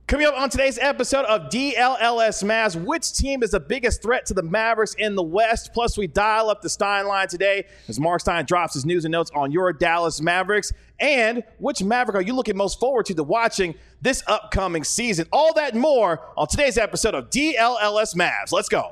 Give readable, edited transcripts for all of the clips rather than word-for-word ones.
Coming up on today's episode of DLLS Mavs, which team is the biggest threat to the Mavericks in the West? Plus, we dial up the Stein line today as Mark Stein drops his news and notes on your Dallas Mavericks. And which Maverick are you looking most forward to watching this upcoming season? All that and more on today's episode of DLLS Mavs. Let's go.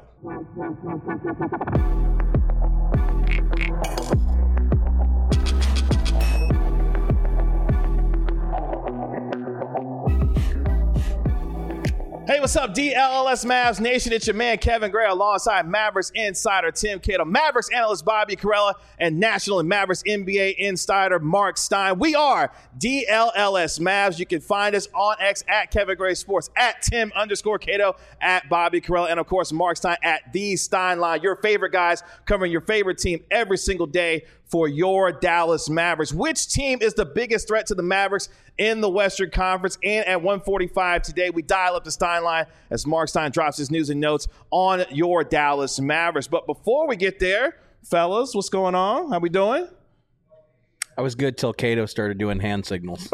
Hey, what's up, DLLS Mavs Nation? It's your man, Kevin Gray, alongside Mavericks insider Tim Cato, Mavericks analyst Bobby Karalla, and National and Mavericks NBA insider Mark Stein. We are DLLS Mavs. You can find us on X at Kevin Gray Sports, at Tim_Cato, at Bobby Karalla, and of course, Mark Stein at The Stein Line. Your favorite guys covering your favorite team every single day for your Dallas Mavericks. Which team is the biggest threat to the Mavericks in the Western Conference? And at 1:45 today, we dial up the Stein line as Mark Stein drops his news and notes on your Dallas Mavericks. But before we get there, fellas, what's going on? How we doing? I was good till Cato started doing hand signals.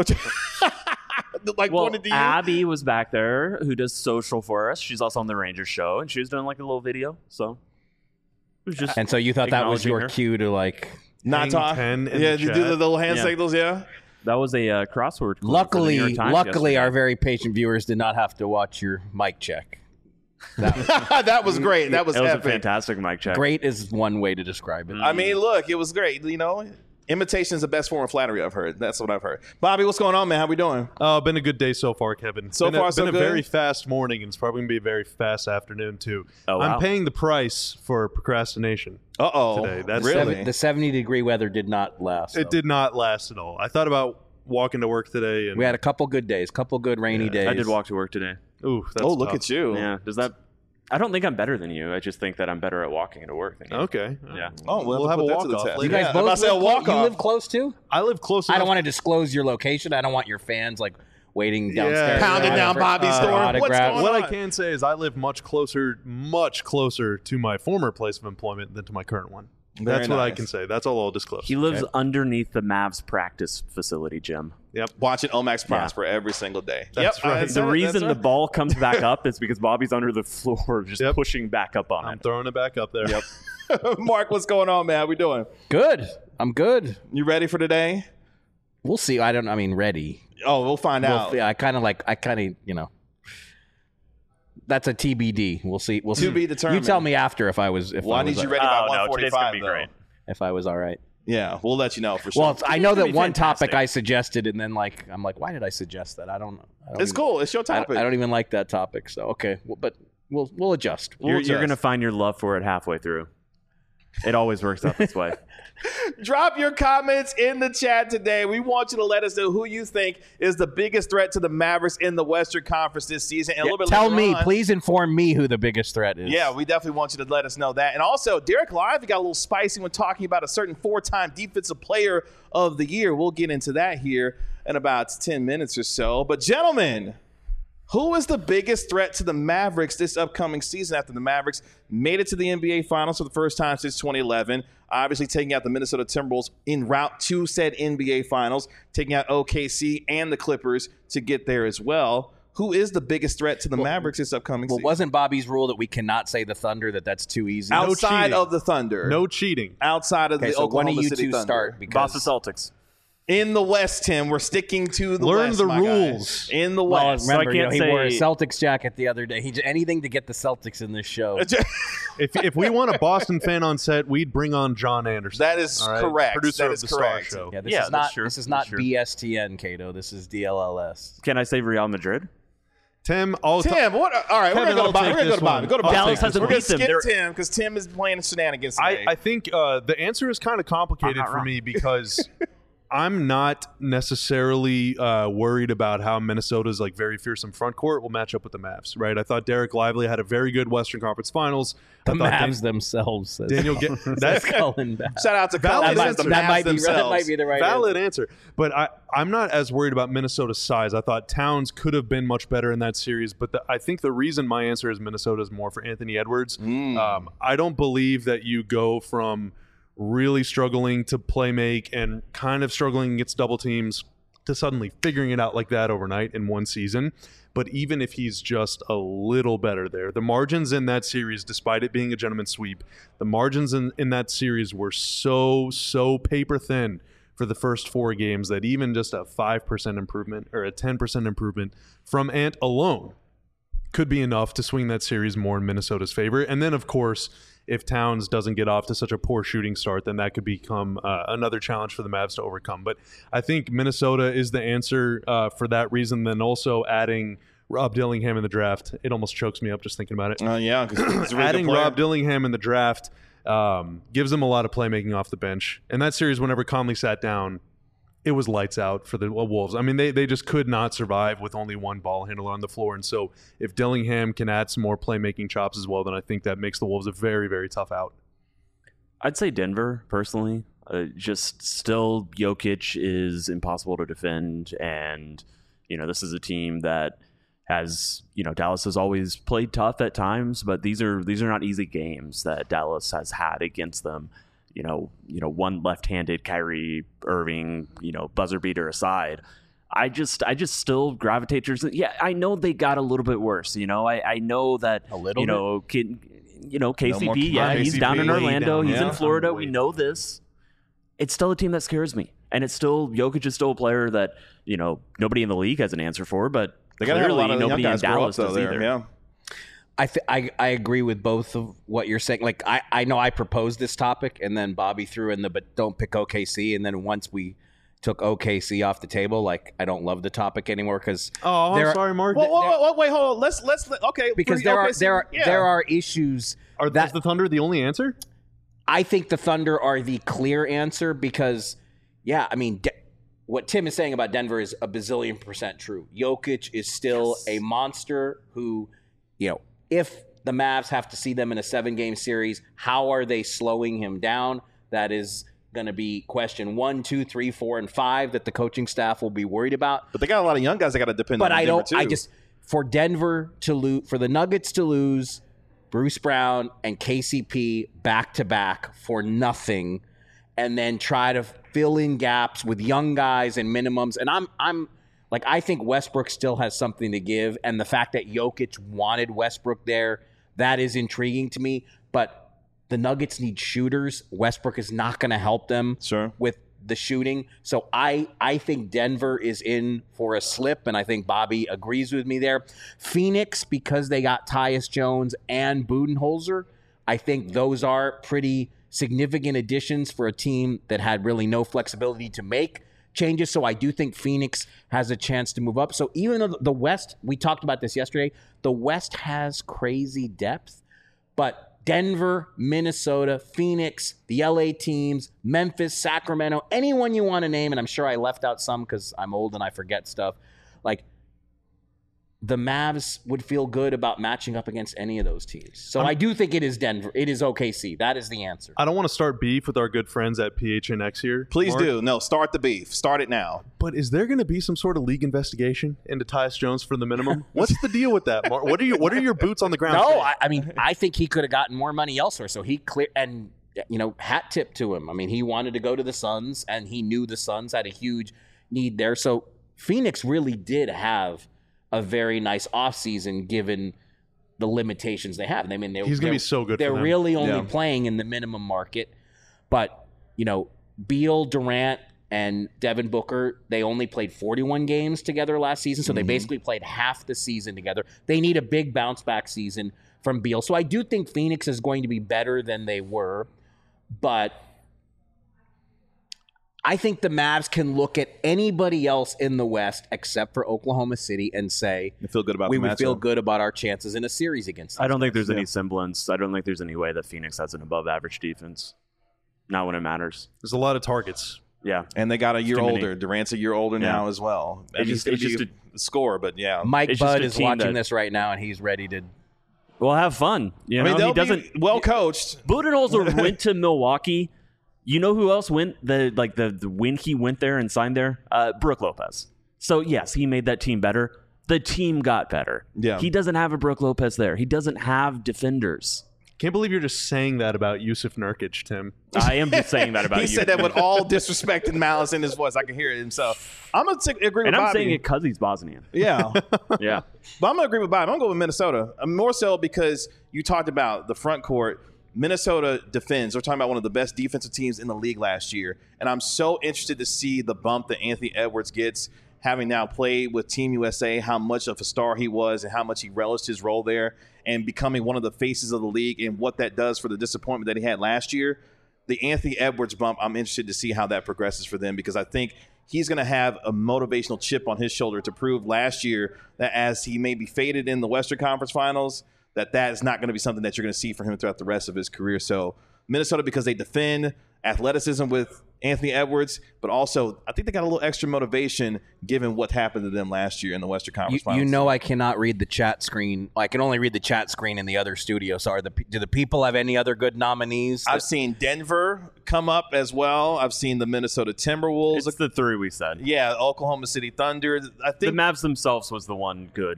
Well, Abby was back there who does social for us. She's also on the Rangers show, and she was doing like a little video. So it was just and so you thought that was your cue to like not talk? Yeah, you do the little hand signals, yeah. That was a crossword. Luckily, our very patient viewers did not have to watch your mic check. That was great. That was a fantastic mic check. Great is one way to describe it. I mean, look, it was great. You know, imitation is the best form of flattery, I've heard. That's what I've heard. Bobby, what's going on, man? How we doing? Been a good day so far, Kevin. So far, so good. Been a very fast morning, and it's probably going to be a very fast afternoon, too. Oh, wow. I'm paying the price for procrastination. Today. That's really? The 70-degree weather did not last. It did not last at all. I thought about walking to work today. And we had a couple good days, couple good rainy days. I did walk to work today. Ooh, that's look tough. at you. Yeah. Does that... I don't think I'm better than you. I just think that I'm better at walking to work than you. Okay. Yeah. Oh, we'll have a walk-off later. You guys both you live close too? I live close enough. I don't want to disclose your location. I don't want your fans like waiting downstairs. Pounding down Bobby's door. What's going on? What I can say is I live much closer to my former place of employment than to my current one. That's what I can say. That's all I'll disclose. He lives underneath the Mavs practice facility gym. Yep. Watching Omax prosper every single day. That's right. The reason the ball comes back up is because Bobby's under the floor just pushing back up on it. I'm throwing it back up there. Yep. Mark, what's going on, man? How we doing? Good. I'm good. You ready for today? We'll see. Ready. Oh, we'll find out. I kind of, that's a TBD. We'll see. To be determined. You tell me after if I was. I need you ready by 1:45. Today's gonna be great. If I was all right. Yeah, we'll let you know for sure. Well, I know that one topic I suggested, and then I'm like, why did I suggest that? I don't know. It's cool. It's your topic. I don't even like that topic. So okay, but we'll adjust. You're gonna find your love for it halfway through. It always works out this way. Drop your comments in the chat today. We want you to let us know who you think is the biggest threat to the Mavericks in the Western Conference this season. And a little bit tell me, on, please inform me who the biggest threat is. Yeah, we definitely want you to let us know that. And also, Derek Lively got a little spicy when talking about a certain 4-time Defensive Player of the Year. We'll get into that here in about 10 minutes or so. But gentlemen, who is the biggest threat to the Mavericks this upcoming season after the Mavericks made it to the NBA Finals for the first time since 2011? Obviously taking out the Minnesota Timberwolves en route to said NBA Finals, taking out OKC and the Clippers to get there as well. Who is the biggest threat to the Mavericks this upcoming season? Wasn't Bobby's rule that we cannot say the Thunder, that's too easy? Outside of the Thunder. No cheating. Outside of the Oklahoma one of you City two Thunder. start Boston Celtics. In the West, Tim, we're sticking to the Learn West, the my rules. guys. In the Well, West. remember, So I can't he wore a say- Celtics jacket the other day. He did anything to get the Celtics in this show. If we want a Boston fan on set, we'd bring on John Anderson. That is all right? correct. Producer That of is the correct. Star Show. Yeah, Yeah, that's true. This is not That's true. BSTN, Cato. This is DLLS. Can I say Real Madrid? Tim, what? All right, we're Kevin, gonna I'll go take to this Bobby. one. Go to Bobby. Dallas hasn't We're gonna beat them. skip Tim because Tim is playing shenanigans today. I think the answer is kind of complicated for me because I'm not necessarily worried about how Minnesota's like very fearsome front court will match up with the Mavs, right? I thought Derek Lively had a very good Western Conference Finals. The Mavs themselves. Says, Daniel, that's Cullen back. Shout out to Valid Cullen. answer. That That might be the right valid answer. But I'm not as worried about Minnesota's size. I thought Towns could have been much better in that series, but I think the reason my answer is Minnesota is more for Anthony Edwards. I don't believe that you go from really struggling to play make and kind of struggling against double teams to suddenly figuring it out like that overnight in one season. But even if he's just a little better there, the margins in that series, despite it being a gentleman's sweep, the margins in that series were so paper thin for the first 4 games that even just a 5% improvement or a 10% improvement from Ant alone could be enough to swing that series more in Minnesota's favor. And then, of course, if Towns doesn't get off to such a poor shooting start, then that could become another challenge for the Mavs to overcome. But I think Minnesota is the answer for that reason. Then also adding Rob Dillingham in the draft, it almost chokes me up just thinking about it. Yeah, because really adding Rob Dillingham in the draft gives them a lot of playmaking off the bench. And that series, whenever Conley sat down, it was lights out for the Wolves. I mean, they just could not survive with only one ball handler on the floor. And so if Dillingham can add some more playmaking chops as well, then I think that makes the Wolves a very, very tough out. I'd say Denver, personally. Just still, Jokic is impossible to defend. And, this is a team that has, Dallas has always played tough at times, but these are not easy games that Dallas has had against them. One left-handed Kyrie Irving, buzzer beater aside, I just still gravitate towards it. Yeah, I know they got a little bit worse. I know that a little bit. KCP, he's down in Orlando, he's in Florida. We know this. It's still a team that scares me, and it's still Jokic is still a player that nobody in the league has an answer for, but they got to have a lot of nobody young in guys grow Dallas up, though, does either. Yeah. I agree with both of what you're saying. Like, I know I proposed this topic, and then Bobby threw in but don't pick OKC. And then once we took OKC off the table, like, I don't love the topic anymore because I'm sorry, Mark. Wait, hold on. Let's okay. Because there are issues. Is the Thunder the only answer? I think the Thunder are the clear answer because, what Tim is saying about Denver is a bazillion % true. Jokic is still a monster who, if the Mavs have to see them in a 7-game series, how are they slowing him down? That is going to be question 1, 2, 3, 4, and 5 that the coaching staff will be worried about. But they got a lot of young guys that got to depend on. But for Denver to lose, for the Nuggets to lose Bruce Brown and KCP back to back for nothing, and then try to fill in gaps with young guys and minimums, and I'm. Like, I think Westbrook still has something to give, and the fact that Jokic wanted Westbrook there, that is intriguing to me. But the Nuggets need shooters. Westbrook is not going to help them with the shooting. So I think Denver is in for a slip, and I think Bobby agrees with me there. Phoenix, because they got Tyus Jones and Budenholzer, I think those are pretty significant additions for a team that had really no flexibility to make changes. So I do think Phoenix has a chance to move up. So even though the West, we talked about this yesterday, the West has crazy depth, but Denver, Minnesota, Phoenix, the LA teams, Memphis, Sacramento, anyone you want to name, and I'm sure I left out some because I'm old and I forget stuff, like the Mavs would feel good about matching up against any of those teams. So I do think it is Denver. It is OKC. That is the answer. I don't want to start beef with our good friends at PHNX here. Please do. No, start the beef. Start it now. But is there going to be some sort of league investigation into Tyus Jones for the minimum? What's the deal with that, Mark? What are your boots on the ground? No, I think he could have gotten more money elsewhere. So he hat tip to him. I mean, he wanted to go to the Suns, and he knew the Suns had a huge need there. So Phoenix really did have a very nice offseason given the limitations they have. I mean, he's going to be so good. They're really only playing in the minimum market. But, Beal, Durant, and Devin Booker, they only played 41 games together last season. So they basically played half the season together. They need a big bounce back season from Beal. So I do think Phoenix is going to be better than they were. But I think the Mavs can look at anybody else in the West except for Oklahoma City and say we would feel good about our chances in a series against them. I don't think there's any semblance. I don't think there's any way that Phoenix has an above-average defense. Not when it matters. There's a lot of targets. Yeah. And they got a year older. Durant's a year older now as well. It's just a score, but yeah. Mike Budd is watching this right now, and he's ready to... Well, have fun. He doesn't... Well coached. Budenholzer went to Milwaukee. You know who else went when he went there and signed there? Brook Lopez. So yes, he made that team better. The team got better. Yeah. He doesn't have a Brook Lopez there. He doesn't have defenders. Can't believe you're just saying that about Yusuf Nurkic, Tim. I am just saying that about he you. He said that with all disrespect and malice in his voice. I can hear it. And so I'm going to agree with Bobby. And I'm saying it because he's Bosnian. Yeah. Yeah. But I'm going to agree with Bobby. I'm going to go with Minnesota. More so because you talked about the front court. Minnesota defends. We're talking about one of the best defensive teams in the league last year. And I'm so interested to see the bump that Anthony Edwards gets, having now played with Team USA, how much of a star he was and how much he relished his role there and becoming one of the faces of the league and what that does for the disappointment that he had last year. The Anthony Edwards bump, I'm interested to see how that progresses for them because I think he's going to have a motivational chip on his shoulder to prove last year that as he may be faded in the Western Conference Finals, that is not going to be something that you're going to see from him throughout the rest of his career. So Minnesota, because they defend, athleticism with Anthony Edwards, but also I think they got a little extra motivation given what happened to them last year in the Western Conference Finals. You know I cannot read the chat screen. I can only read the chat screen in the other studio. So do the people have any other good nominees? I've seen Denver come up as well. I've seen the Minnesota Timberwolves. It's the three we said. Yeah, Oklahoma City Thunder. I think the Mavs themselves was the one good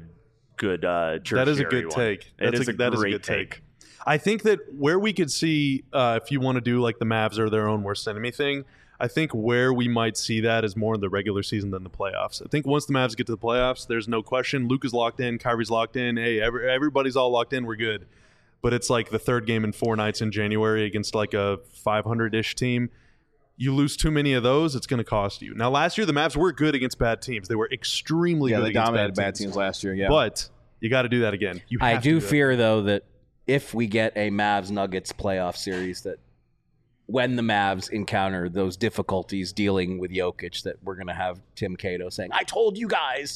that is a good take. That is a good take. I think that where we could see, if you want to do like the Mavs are their own worst enemy thing, I think where we might see that is more in the regular season than the playoffs. I think once the Mavs get to the playoffs, there's no question. Luke is locked in. Kyrie's locked in. Hey, everybody's all locked in. We're good. But it's like the third game in 4 nights in January against like a 500-ish team. You lose too many of those, it's going to cost you. Now, last year, the Mavs were good against bad teams. They were extremely good against dominated bad teams last year, yeah. But you got to do that again. I do fear, though, that if we get a Mavs-Nuggets playoff series, that when the Mavs encounter those difficulties dealing with Jokic, that we're going to have Tim Cato saying, I told you guys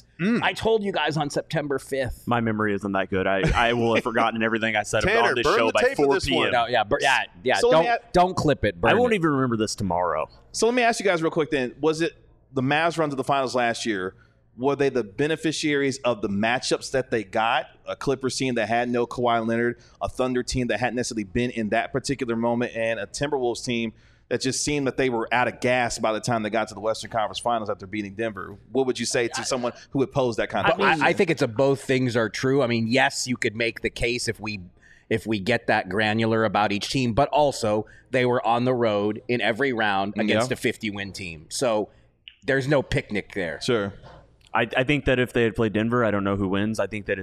on September 5th. My memory isn't that good. I will have forgotten everything I said Tanner, about this burn show the by tape 4 of this p.m. one. No, yeah. So Don't clip it. Burn I won't it. even remember this tomorrow. So let me ask you guys real quick then. Was it the Mavs run to the finals last year? Were they the beneficiaries of the matchups that they got? A Clippers team that had no Kawhi Leonard, a Thunder team that hadn't necessarily been in that particular moment, and a Timberwolves team that just seemed that they were out of gas by the time they got to the Western Conference Finals after beating Denver. What would you say to someone who would pose that kind of question? I think it's both things are true. I mean, yes, you could make the case if we get that granular about each team, but also they were on the road in every round against a 50-win team. So there's no picnic there. Sure. I think that if they had played Denver, I don't know who wins. I think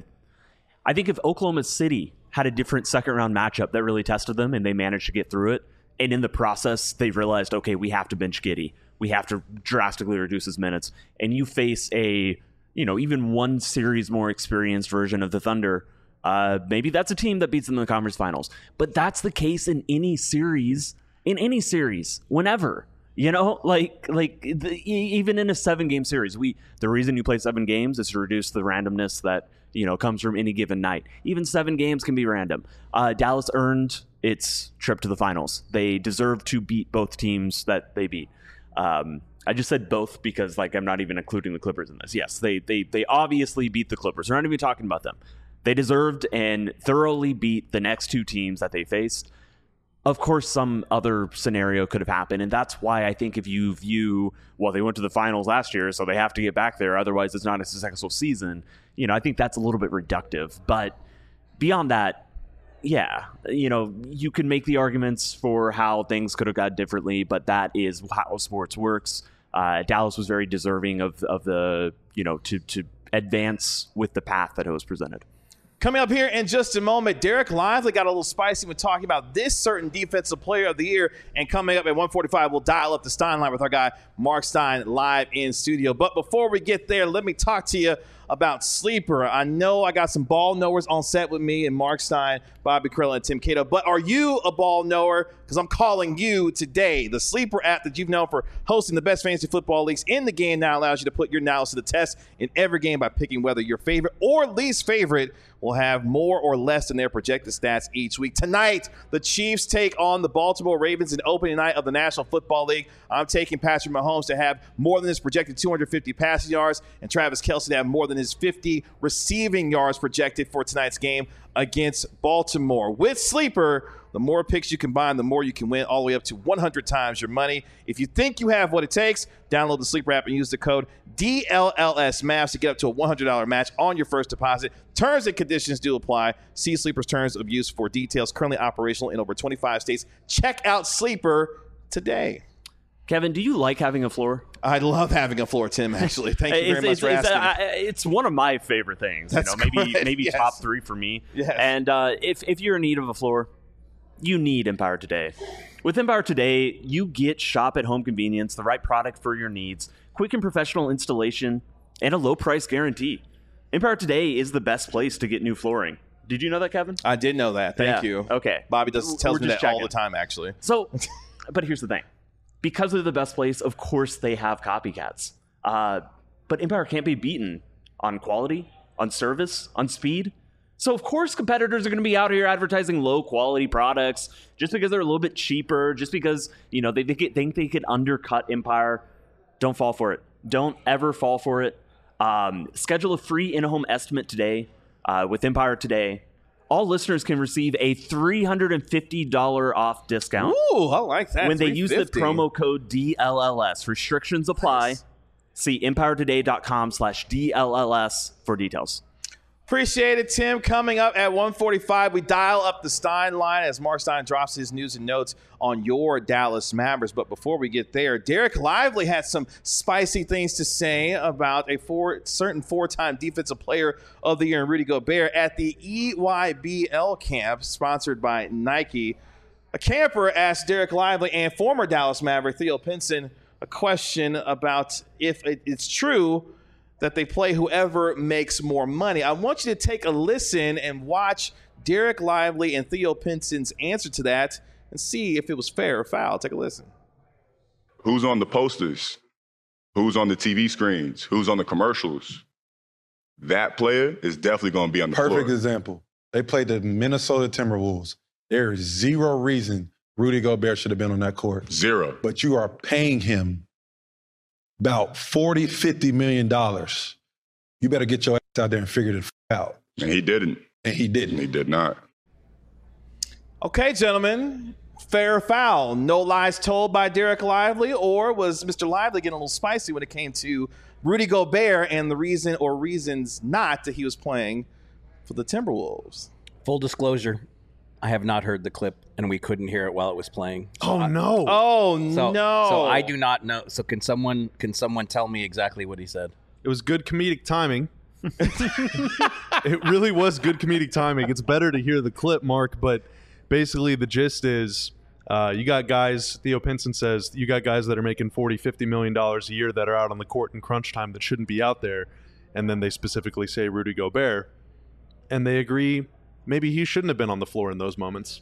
if Oklahoma City had a different second-round matchup that really tested them and they managed to get through it, and in the process, they've realized, okay, we have to bench Giddey. We have to drastically reduce his minutes. And you face even one series more experienced version of the Thunder, maybe that's a team that beats them in the conference finals. But that's the case in any series, whenever. Even in a 7-game series, the reason you play 7 games is to reduce the randomness that comes from any given night. Even 7 games can be random. Dallas earned its trip to the finals. They deserve to beat both teams that they beat. I just said both because I'm not even including the Clippers in this. Yes, they obviously beat the Clippers. We're not even talking about them. They deserved and thoroughly beat the next 2 teams that they faced. Of course, some other scenario could have happened, and that's why I think if you view, they went to the finals last year, so they have to get back there, otherwise it's not a successful season. I think that's a little bit reductive. But beyond that, yeah, you can make the arguments for how things could have gone differently, but that is how sports works. Dallas was very deserving of the, to advance with the path that it was presented. Coming up here in just a moment, Derek Lively got a little spicy when talking about this certain defensive player of the year. And coming up at 1:45, we'll dial up the Stein line with our guy, Mark Stein, live in studio. But before we get there, let me talk to you about Sleeper. I know I got some ball knowers on set with me and Mark Stein, Bobby Carell, and Tim Cato. But are you a ball knower? Because I'm calling you today. The Sleeper app that you've known for hosting the best fantasy football leagues in the game now allows you to put your knowledge to the test in every game by picking whether your favorite or least favorite will have more or less than their projected stats each week. Tonight, the Chiefs take on the Baltimore Ravens in opening night of the National Football League. I'm taking Patrick Mahomes to have more than his projected 250 passing yards and Travis Kelce to have more than than his 50 receiving yards projected for tonight's game against Baltimore. With Sleeper, the more picks you combine, the more you can win, all the way up to 100 times your money. If you think you have what it takes, download the Sleeper app and use the code DLLSMAVS to get up to a $100 match on your first deposit. Terms and conditions do apply. See Sleeper's terms of use for details. Currently operational in over 25 states. Check out Sleeper today. Kevin, do you like having a floor? I love having a floor, Tim, actually. Thank you very much for asking. It's one of my favorite things. That's maybe yes. top 3 for me. Yes. And if you're in need of a floor, you need Empire Today. With Empire Today, you get shop at home convenience, the right product for your needs, quick and professional installation, and a low price guarantee. Empire Today is the best place to get new flooring. Did you know that, Kevin? I did know that. Thank you. Okay. Bobby tells me that checking. all the time, actually. So, but here's the thing. Because they're the best place, of course they have copycats. But Empire can't be beaten on quality, on service, on speed. So, of course, competitors are going to be out here advertising low-quality products just because they're a little bit cheaper, just because, they think they could undercut Empire. Don't fall for it. Don't ever fall for it. Schedule a free in-home estimate today with Empire Today. All listeners can receive a $350 off discount. Ooh, I like that. When they use the promo code DLLS. Restrictions apply. Nice. See EmpireToday.com/DLLS for details. Appreciate it, Tim. Coming up at 1:45, we dial up the Stein line as Mark Stein drops his news and notes on your Dallas Mavericks. But before we get there, Derek Lively had some spicy things to say about a certain four-time Defensive Player of the Year in Rudy Gobert at the EYBL camp sponsored by Nike. A camper asked Derek Lively and former Dallas Maverick Theo Pinson a question about if it's true that they play whoever makes more money. I want you to take a listen and watch Derek Lively and Theo Pinson's answer to that and see if it was fair or foul. Take a listen. Who's on the posters? Who's on the TV screens? Who's on the commercials? That player is definitely going to be on the floor. Perfect example. They played the Minnesota Timberwolves. There is zero reason Rudy Gobert should have been on that court. Zero. But you are paying him about $40, $50 million. You better get your ass out there and figure it out. And he didn't. And he didn't. He did not. Okay, gentlemen. Fair or foul? No lies told by Derek Lively, or was Mr. Lively getting a little spicy when it came to Rudy Gobert and the reason or reasons not that he was playing for the Timberwolves? Full disclosure, I have not heard the clip, and we couldn't hear it while it was playing. So no. Oh, so, no. So I do not know. So can someone tell me exactly what he said? It was good comedic timing. It really was good comedic timing. It's better to hear the clip, Mark, but basically the gist is you got guys, Theo Pinson says, you got guys that are making $40, $50 million a year that are out on the court in crunch time that shouldn't be out there. And then they specifically say Rudy Gobert. And they agree maybe he shouldn't have been on the floor in those moments.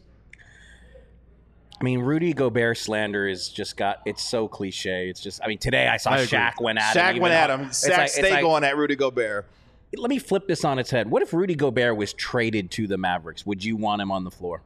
I mean, Rudy Gobert slander is just it's so cliche. It's just, I mean, today I saw Shaq went at him. Shaq went at him. Shaq stayed going at Rudy Gobert. Let me flip this on its head. What if Rudy Gobert was traded to the Mavericks? Would you want him on the floor?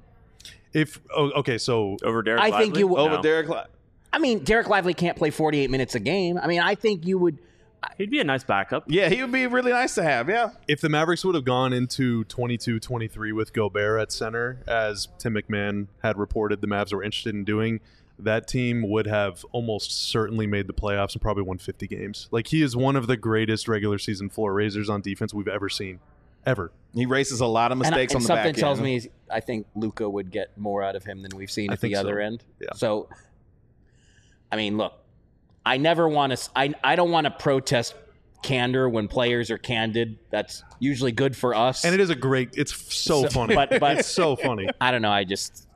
So over Derek I Lively? think you would. Over Derek Lively. I mean, Derek Lively can't play 48 minutes a game. I mean, I think you would. He'd be a nice backup. Yeah, he would be really nice to have, yeah. if the Mavericks would have gone into 22-23 with Gobert at center, as Tim McMahon had reported the Mavs were interested in doing, that team would have almost certainly made the playoffs and probably won 50 games. Like, he is one of the greatest regular season floor raisers on defense we've ever seen. Ever. He races a lot of mistakes on the back end. Something tells me I think Luka would get more out of him than we've seen at the other end. Yeah. So, I mean, look, I never want to. I don't want to protest candor when players are candid. That's usually good for us. And it is it's so funny. But it's so funny. I don't know.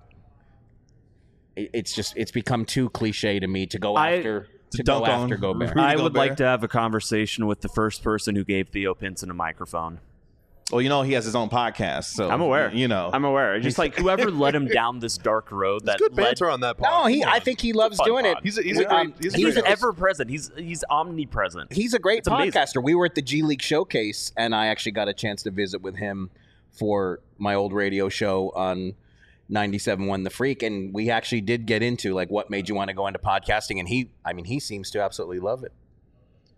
It's become too cliche to me to go after Gobert. I would like to have a conversation with the first person who gave Theo Pinson a microphone. Well, he has his own podcast, so I'm aware. I'm aware. Just like whoever led him down this dark road. That good banter on that part. No, I think he loves doing it. He's ever present. He's omnipresent. He's a great podcaster. Amazing. We were at the G League Showcase, and I actually got a chance to visit with him for my old radio show on 97.1 The Freak, and we actually did get into like what made you want to go into podcasting, and he seems to absolutely love it.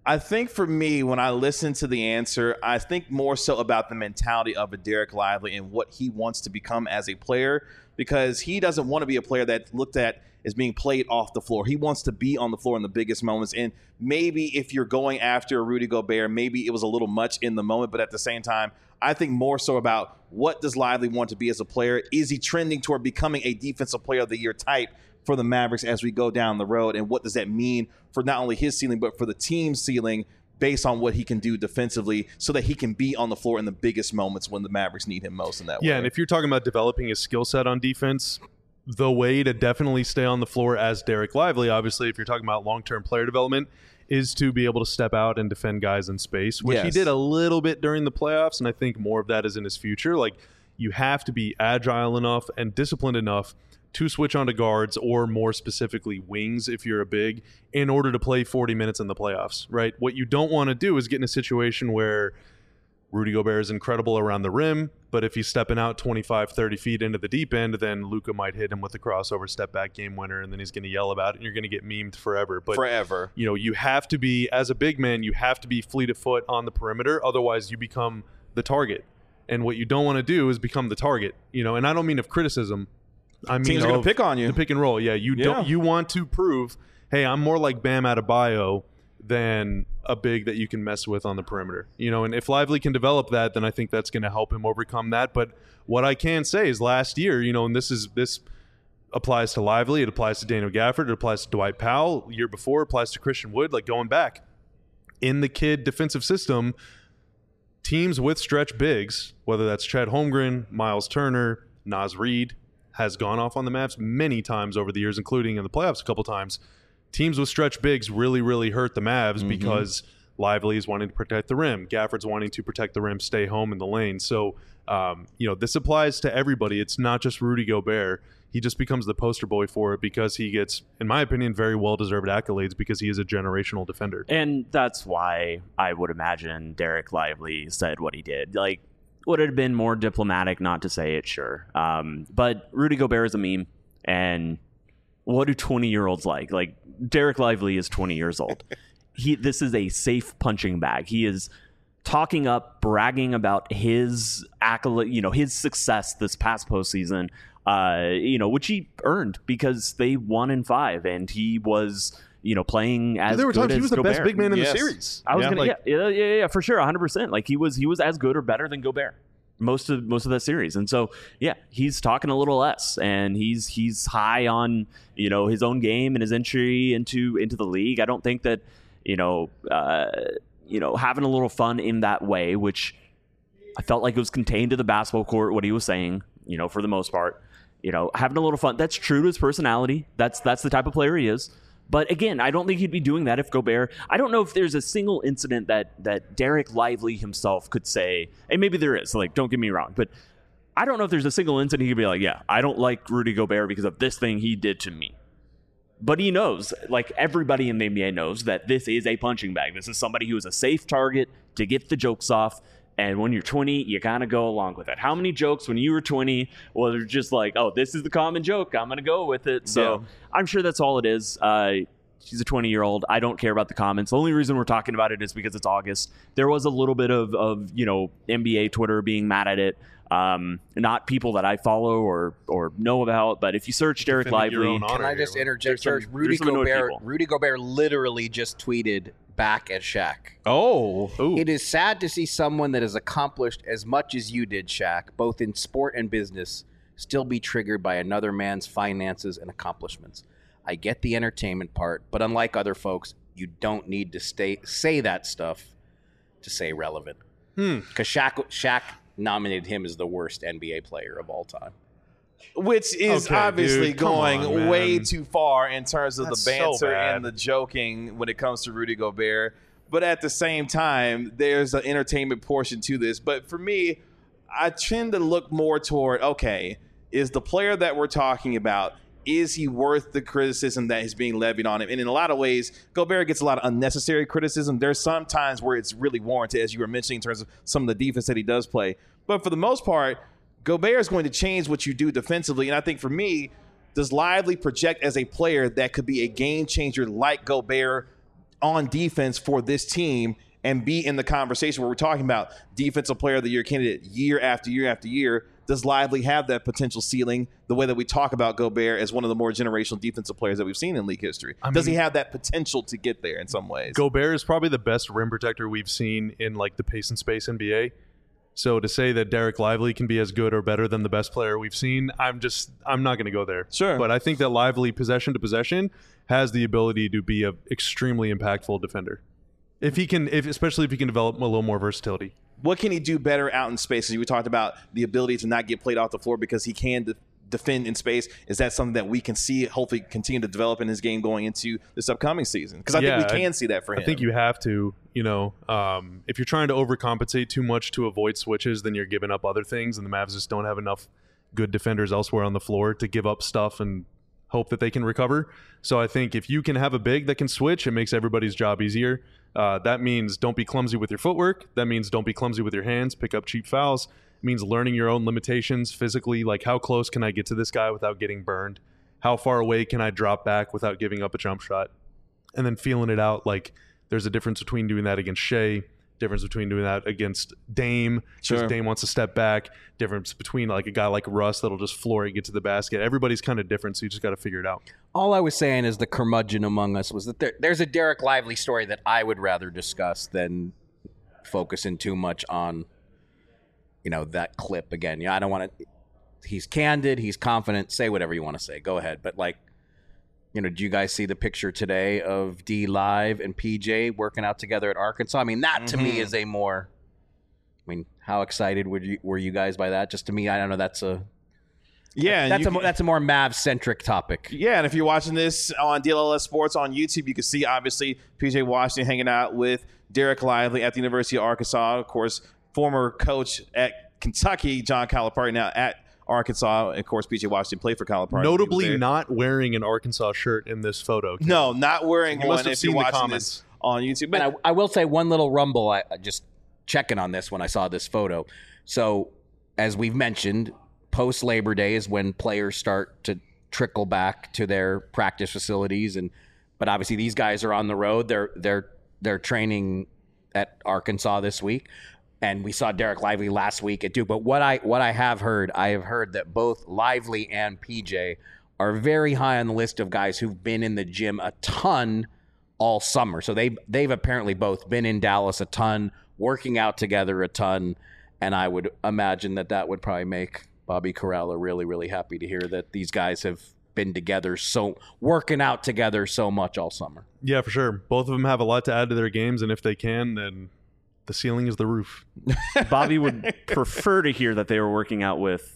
I think for me, when I listen to the answer, I think more so about the mentality of a Dereck Lively and what he wants to become as a player, because he doesn't want to be a player that's looked at as being played off the floor. He wants to be on the floor in the biggest moments. And maybe if you're going after Rudy Gobert, maybe it was a little much in the moment, but at the same time, I think more so about what does Lively want to be as a player? Is he trending toward becoming a defensive player of the year type for the Mavericks as we go down the road? And what does that mean for not only his ceiling, but for the team's ceiling based on what he can do defensively so that he can be on the floor in the biggest moments when the Mavericks need him most in that way? Yeah, and if you're talking about developing his skill set on defense, the way to definitely stay on the floor as Dereck Lively, obviously, if you're talking about long-term player development, is to be able to step out and defend guys in space, which he did a little bit during the playoffs, and I think more of that is in his future. Like, you have to be agile enough and disciplined enough to switch onto guards, or more specifically wings if you're a big, in order to play 40 minutes in the playoffs, right? What you don't want to do is get in a situation where Rudy Gobert is incredible around the rim, but if he's stepping out 25, 30 feet into the deep end, then Luka might hit him with a crossover step-back game winner, and then he's going to yell about it, and you're going to get memed forever. But you know, you have to be, as a big man, you have to be fleet of foot on the perimeter, otherwise you become the target. And what you don't want to do is become the target, you know, and I don't mean of criticism. I mean, teams are going to pick on you. The pick and roll, yeah. You want to prove, hey, I'm more like Bam Adebayo than a big that you can mess with on the perimeter, you know. And if Lively can develop that, then I think that's going to help him overcome that. But what I can say is, last year, you know, and this applies to Lively, it applies to Daniel Gafford, it applies to Dwight Powell. Year before, it applies to Christian Wood. Like, going back in the kid defensive system, teams with stretch bigs, whether that's Chet Holmgren, Miles Turner, Naz Reid, has gone off on the Mavs many times over the years, including in the playoffs a couple times. Teams with stretch bigs really, really hurt the Mavs because Lively is wanting to protect the rim. Gafford's wanting to protect the rim, stay home in the lane. So, you know, this applies to everybody. It's not just Rudy Gobert. He just becomes the poster boy for it because he gets, in my opinion, very well-deserved accolades because he is a generational defender. And that's why I would imagine Dereck Lively said what he did. Like, would it have been more diplomatic not to say it? Sure. But Rudy Gobert is a meme, and what do 20-year-olds like? Like, Dereck Lively is 20 years old. This is a safe punching bag. He is talking up, bragging about his accolade, you know, his success this past postseason, you know, which he earned because they won in 5, and he was, you know, playing as there were good times as he was the Gobert. best big man in the series. I was gonna, for sure, 100%. Like, he was as good or better than Gobert most of that series. And so, yeah, he's talking a little less, and he's high on, you know, his own game and his entry into the league. I don't think that, you know, having a little fun in that way, which I felt like it was contained to the basketball court, what he was saying, you know, for the most part, you know, having a little fun. That's true to his personality. That's the type of player he is. But again, I don't think he'd be doing that if Gobert. I don't know if there's a single incident that Dereck Lively himself could say, and maybe there is, like, don't get me wrong, but I don't know if there's a single incident he could be like, yeah, I don't like Rudy Gobert because of this thing he did to me. But he knows, like everybody in the NBA knows, that this is a punching bag. This is somebody who is a safe target to get the jokes off. And when you're 20, you kind of go along with it. How many jokes when you were 20 was just like, oh, this is the common joke, I'm going to go with it. So I'm sure that's all it is. She's a 20-year-old. I don't care about the comments. The only reason we're talking about it is because it's August. There was a little bit of you know, NBA Twitter being mad at it. Not people that I follow or know about, but if you search Dereck Lively, can I just interject? Rudy Gobert literally just tweeted back at Shaq. It is sad to see someone that has accomplished as much as you did, Shaq, both in sport and business, still be triggered by another man's finances and accomplishments. I get the entertainment part, but unlike other folks, you don't need to say that stuff to stay relevant. Because Shaq nominated him as the worst NBA player of all time. Which is obviously going way too far in terms of the banter and the joking when it comes to Rudy Gobert. But at the same time, there's an entertainment portion to this. But for me, I tend to look more toward, okay, is the player that we're talking about, is he worth the criticism that is being levied on him? And in a lot of ways, Gobert gets a lot of unnecessary criticism. There's some times where it's really warranted, as you were mentioning, in terms of some of the defense that he does play. But for the most part, Gobert is going to change what you do defensively. And I think for me, does Lively project as a player that could be a game changer like Gobert on defense for this team and be in the conversation where we're talking about defensive player of the year candidate year after year after year? Does Lively have that potential ceiling the way that we talk about Gobert as one of the more generational defensive players that we've seen in league history? Does he have that potential to get there in some ways? Gobert is probably the best rim protector we've seen in like the pace and space NBA. So to say that Derek Lively can be as good or better than the best player we've seen, I'm not going to go there. Sure. But I think that Lively, possession to possession, has the ability to be an extremely impactful defender. Especially if he can develop a little more versatility. What can he do better out in space? We talked about the ability to not get played off the floor because he can defend in space. Is that something that we can see hopefully continue to develop in his game going into this upcoming season? Because I think we can see that for him. I think you have to. If you're trying to overcompensate too much to avoid switches, then you're giving up other things, and the Mavs just don't have enough good defenders elsewhere on the floor to give up stuff and hope that they can recover. So I think if you can have a big that can switch, it makes everybody's job easier. That means don't be clumsy with your footwork. That means don't be clumsy with your hands. Pick up cheap fouls. It means learning your own limitations physically, like how close can I get to this guy without getting burned? How far away can I drop back without giving up a jump shot? And then feeling it out, like there's a difference between doing that against Shea, difference between doing that against Dame, because Dame wants to step back, difference between like a guy like Russ that'll just floor it, get to the basket. Everybody's kind of different, so you just got to figure it out. All I was saying is the curmudgeon among us was that there's a Derek Lively story that I would rather discuss than focusing too much on, that clip again. Yeah, I don't want to. He's candid. He's confident. Say whatever you want to say. Go ahead. But did you guys see the picture today of D Live and PJ working out together at Arkansas? I mean, that to me is how excited were you guys by that? Just to me, I don't know. That's a more Mavs-centric topic. Yeah, and if you're watching this on DLLS Sports on YouTube, you can see, obviously, PJ Washington hanging out with Derek Lively at the University of Arkansas. Of course, former coach at Kentucky, John Calipari, now at Arkansas. Of course, PJ Washington played for Calipari. Notably not wearing an Arkansas shirt in this photo. No, not wearing one. Must have seen the comments this on YouTube. But I will say one little rumble. I just checking on this when I saw this photo. So, as we've mentioned, post Labor Day is when players start to trickle back to their practice facilities, but obviously these guys are on the road. They're training at Arkansas this week, and we saw Derek Lively last week at Duke. But what I have heard that both Lively and PJ are very high on the list of guys who've been in the gym a ton all summer. So they've apparently both been in Dallas a ton, working out together a ton, and I would imagine that would probably make Bobby Karalla really, really happy to hear that these guys have been together, so working out together so much all summer. Yeah, for sure. Both of them have a lot to add to their games, and if they can, then the ceiling is the roof. Bobby would prefer to hear that they were working out with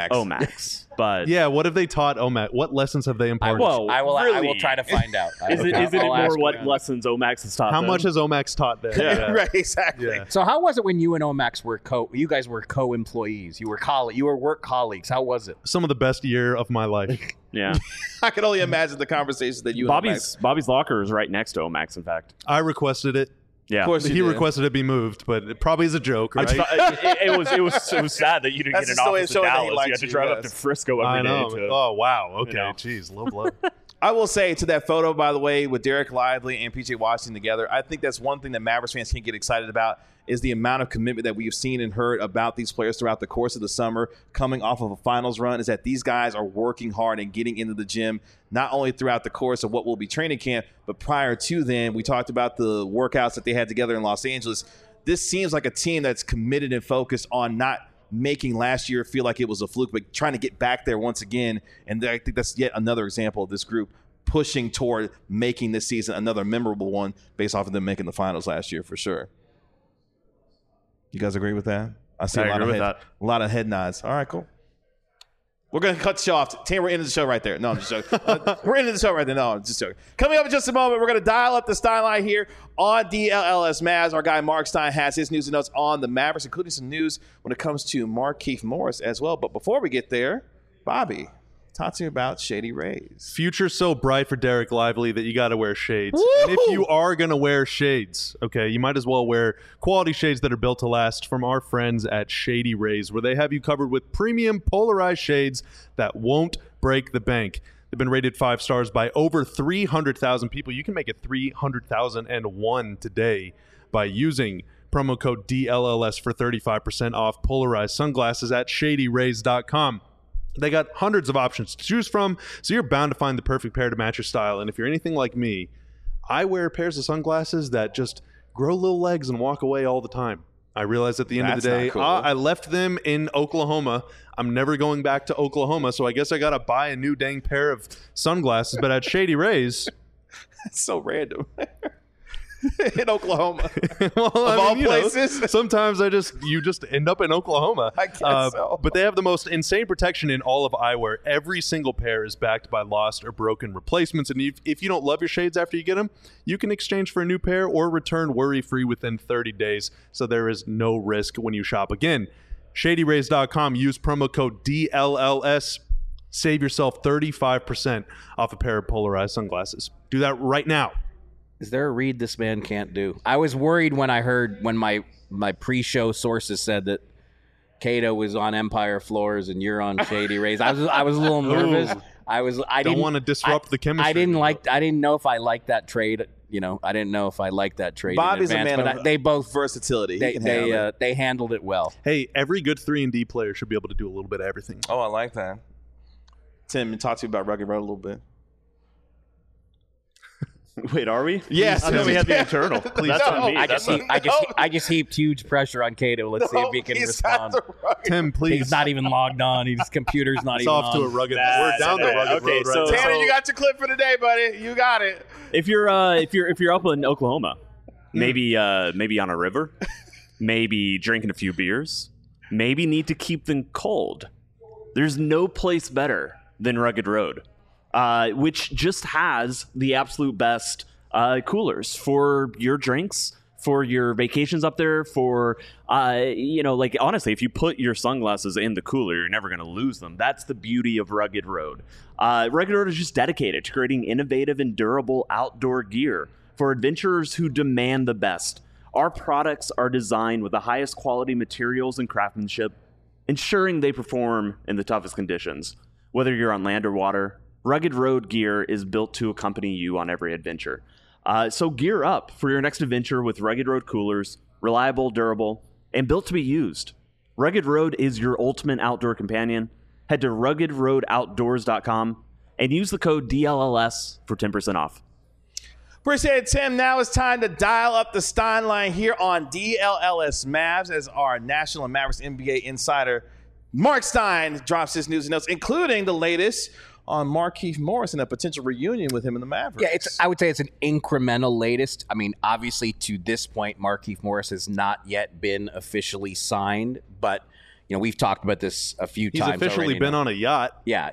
Omax, but yeah, what have they taught Omax? What lessons have they imparted? I will try to find out. Is it more what lessons Omax has taught? How much has Omax taught them? Yeah. Right, exactly. Yeah. So how was it when you and Omax were you guys were co-employees? You were work colleagues. How was it? Some of the best year of my life. Yeah. I can only imagine the conversations that you Bobby's locker is right next to Omax, in fact. I requested it. Yeah, of course he requested it be moved, but it probably is a joke, right? It was sad that you didn't get an office in Dallas. You had to drive up to Frisco every day. Oh wow, okay, jeez, low blow. I will say to that photo, by the way, with Derek Lively and PJ Washington together, I think that's one thing that Mavericks fans can get excited about is the amount of commitment that we've seen and heard about these players throughout the course of the summer coming off of a finals run, is that these guys are working hard and getting into the gym, not only throughout the course of what will be training camp, but prior to then. We talked about the workouts that they had together in Los Angeles. This seems like a team that's committed and focused on not making last year feel like it was a fluke, but trying to get back there once again. And I think that's yet another example of this group pushing toward making this season another memorable one based off of them making the finals last year for sure. You guys agree with that? I see a lot of head nods. All right, cool. We're going to cut the show off. Tam, we're ending the show right there. No, I'm just joking. We're ending the show right there. No, I'm just joking. Coming up in just a moment, we're going to dial up the Stein line here on DLLS Mavs. Our guy Mark Stein has his news and notes on the Mavericks, including some news when it comes to Markieff Morris as well. But before we get there, Bobby, talk to me about Shady Rays. Future's so bright for Derek Lively that you got to wear shades. Woo-hoo! And if you are going to wear shades, okay, you might as well wear quality shades that are built to last from our friends at Shady Rays, where they have you covered with premium polarized shades that won't break the bank. They've been rated 5 stars by over 300,000 people. You can make it 300,001 today by using promo code DLLS for 35% off polarized sunglasses at ShadyRays.com. They got hundreds of options to choose from, so you're bound to find the perfect pair to match your style. And if you're anything like me, I wear pairs of sunglasses that just grow little legs and walk away all the time. I realized at the end of the day, cool. I left them in Oklahoma. I'm never going back to Oklahoma, so I guess I got to buy a new dang pair of sunglasses. But at Shady Rays... That's so random. In Oklahoma. Well, of all places. Sometimes you just end up in Oklahoma. I guess so. But they have the most insane protection in all of eyewear. Every single pair is backed by lost or broken replacements. And if you don't love your shades after you get them, you can exchange for a new pair or return worry-free within 30 days. So there is no risk when you shop. Again, ShadyRays.com. Use promo code DLLS. Save yourself 35% off a pair of polarized sunglasses. Do that right now. Is there a read this man can't do? I was worried when I heard when my pre-show sources said that Cato was on Empire floors and you're on Shady Rays. I was a little nervous. I didn't want to disrupt the chemistry. I didn't know if I liked that trade. I didn't know if I liked that trade. Bobby's in advance, a man of they both versatility. They handled it well. Hey, every good 3-and-D player should be able to do a little bit of everything. Oh, I like that. Tim, talk to you about Rugged Road a little bit. Wait, are we? Yes. I thought we had the internal. That's on me. I just heaped huge pressure on Cato. Let's see if he can respond. Tim, please. He's not even logged on. His computer's not it's even off on. to a rugged. We're down the rugged road right now. Tanner, you got your clip for the day, buddy. You got it. If you're up in Oklahoma, maybe on a river, maybe drinking a few beers, maybe need to keep them cold. There's no place better than Rugged Road, which just has the absolute best coolers for your drinks, for your vacations up there, for honestly, if you put your sunglasses in the cooler, you're never going to lose them. That's the beauty of Rugged Road. Rugged Road is just dedicated to creating innovative and durable outdoor gear for adventurers who demand the best. Our products are designed with the highest quality materials and craftsmanship, ensuring they perform in the toughest conditions. Whether you're on land or water, Rugged Road gear is built to accompany you on every adventure. So gear up for your next adventure with Rugged Road coolers, reliable, durable, and built to be used. Rugged Road is your ultimate outdoor companion. Head to ruggedroadoutdoors.com and use the code DLLS for 10% off. Appreciate it, Tim. Now it's time to dial up the Stein line here on DLLS Mavs as our National and Mavericks NBA insider Mark Stein drops his news and notes, including the latest on Markieff Morris and a potential reunion with him in the Mavericks. Yeah, I would say it's an incremental latest. I mean, obviously, to this point, Markieff Morris has not yet been officially signed, but we've talked about this a few times. He's officially been on a yacht. Yeah,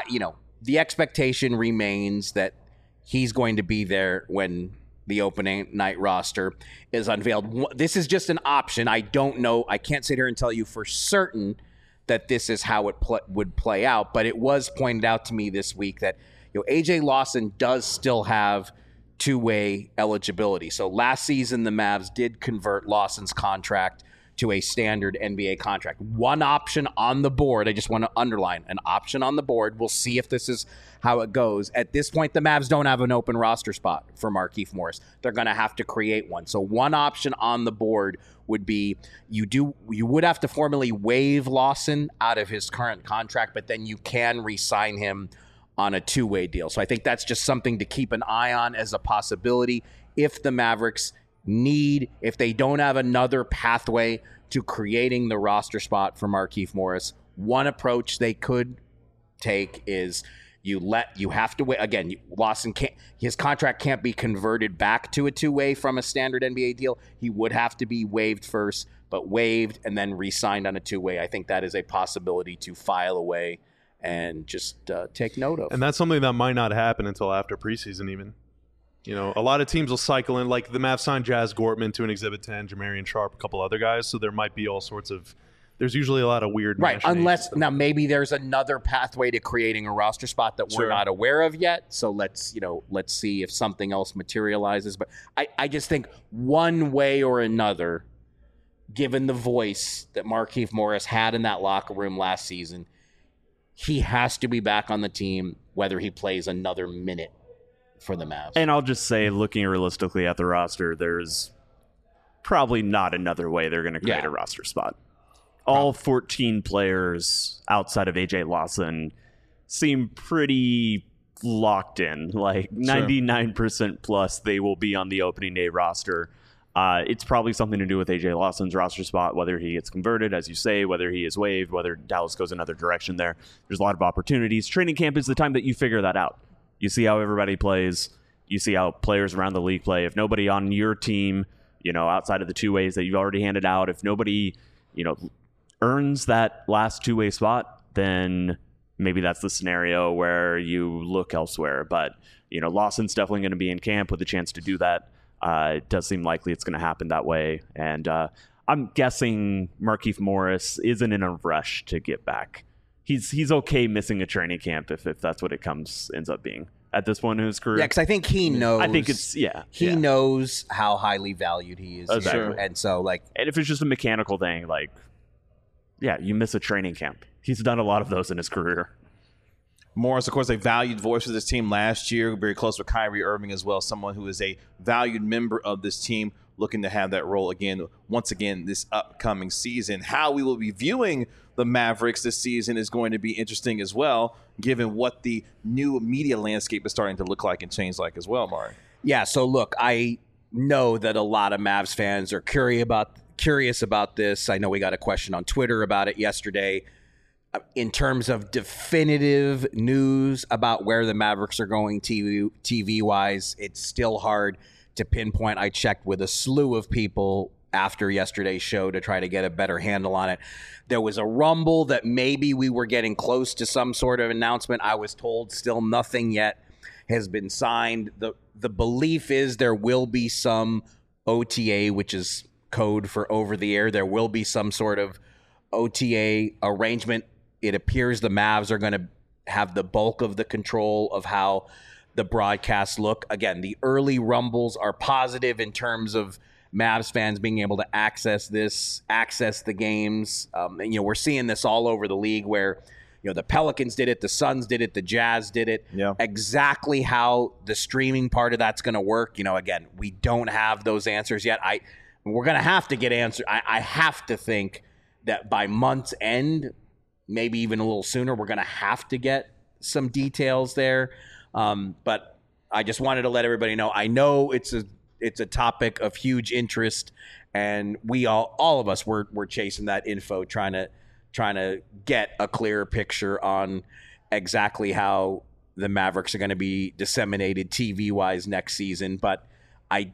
the expectation remains that he's going to be there when the opening night roster is unveiled. This is just an option. I don't know. I can't sit here and tell you for certain that this is how it would play out. But it was pointed out to me this week that A.J. Lawson does still have two-way eligibility. So last season, the Mavs did convert Lawson's contract to a standard NBA contract. One option on the board. I just want to underline an option on the board. We'll see if this is how it goes. At this point, the Mavs don't have an open roster spot for Markieff Morris. They're going to have to create one. So one option on the board would be you would have to formally waive Lawson out of his current contract, but then you can re-sign him on a two-way deal. So I think that's just something to keep an eye on as a possibility if the Mavericks if they don't have another pathway to creating the roster spot for Markieff Morris. One approach they could take is you have to wait. Again, Lawson his contract can't be converted back to a two-way from a standard NBA deal. He would have to be waived first, but waived and then re-signed on a two-way. I think that is a possibility to file away and just take note of. And that's something that might not happen until after preseason even. A lot of teams will cycle in, like the Mavs signed Jazz Gortman to an Exhibit 10, Jamarian Sharp, a couple other guys, so there might be all sorts of there's usually a lot of weird right, unless now maybe there's another pathway to creating a roster spot that we're not aware of yet. So let's see if something else materializes. But I just think one way or another, given the voice that Markieff Morris had in that locker room last season, he has to be back on the team, whether he plays another minute for the Mavs. And I'll just say, looking realistically at the roster, there's probably not another way they're going to create a roster spot. All 14 players outside of AJ Lawson seem pretty locked in, like 99% plus they will be on the opening day roster. It's probably something to do with AJ Lawson's roster spot, whether he gets converted, as you say, whether he is waived, whether Dallas goes another direction there. There's a lot of opportunities. Training camp is the time that you figure that out. You see how everybody plays. You see how players around the league play. If nobody on your team, outside of the two ways that you've already handed out, if nobody, earns that last two-way spot, then maybe that's the scenario where you look elsewhere. But, Lawson's definitely going to be in camp with a chance to do that. It does seem likely it's going to happen that way. And I'm guessing Markieff Morris isn't in a rush to get back. He's okay missing a training camp if that's what it ends up being at this point in his career. Yeah, because I think he knows. I think it's He knows how highly valued he is. Exactly. And so, and if it's just a mechanical thing, you miss a training camp. He's done a lot of those in his career. Morris, of course, a valued voice for this team last year, very close with Kyrie Irving as well, someone who is a valued member of this team, looking to have that role once again this upcoming season. How we will be viewing the Mavericks this season is going to be interesting as well, given what the new media landscape is starting to look like and change like as well, Mari. Yeah, so look, I know that a lot of Mavs fans are curious about this. I know we got a question on Twitter about it yesterday. In terms of definitive news about where the Mavericks are going TV-wise, it's still hard to pinpoint. I checked with a slew of people after yesterday's show to try to get a better handle on it. There was a rumble that maybe we were getting close to some sort of announcement. I was told still nothing yet has been signed. The belief is there will be some OTA, which is code for over the air. There will be some sort of OTA arrangement. It appears the Mavs are going to have the bulk of the control of how the broadcasts look. Again, the early rumbles are positive in terms of Mavs fans being able to access the games. We're seeing this all over the league where, the Pelicans did it, the Suns did it, the Jazz did it. Yeah. Exactly how the streaming part of that's going to work, again, we don't have those answers yet. We're going to have to get answers. I have to think that by month's end, maybe even a little sooner, we're going to have to get some details there. But I just wanted to let everybody know. I know it's a topic of huge interest, and we all of us were chasing that info, trying to get a clearer picture on exactly how the Mavericks are going to be disseminated TV-wise next season. But I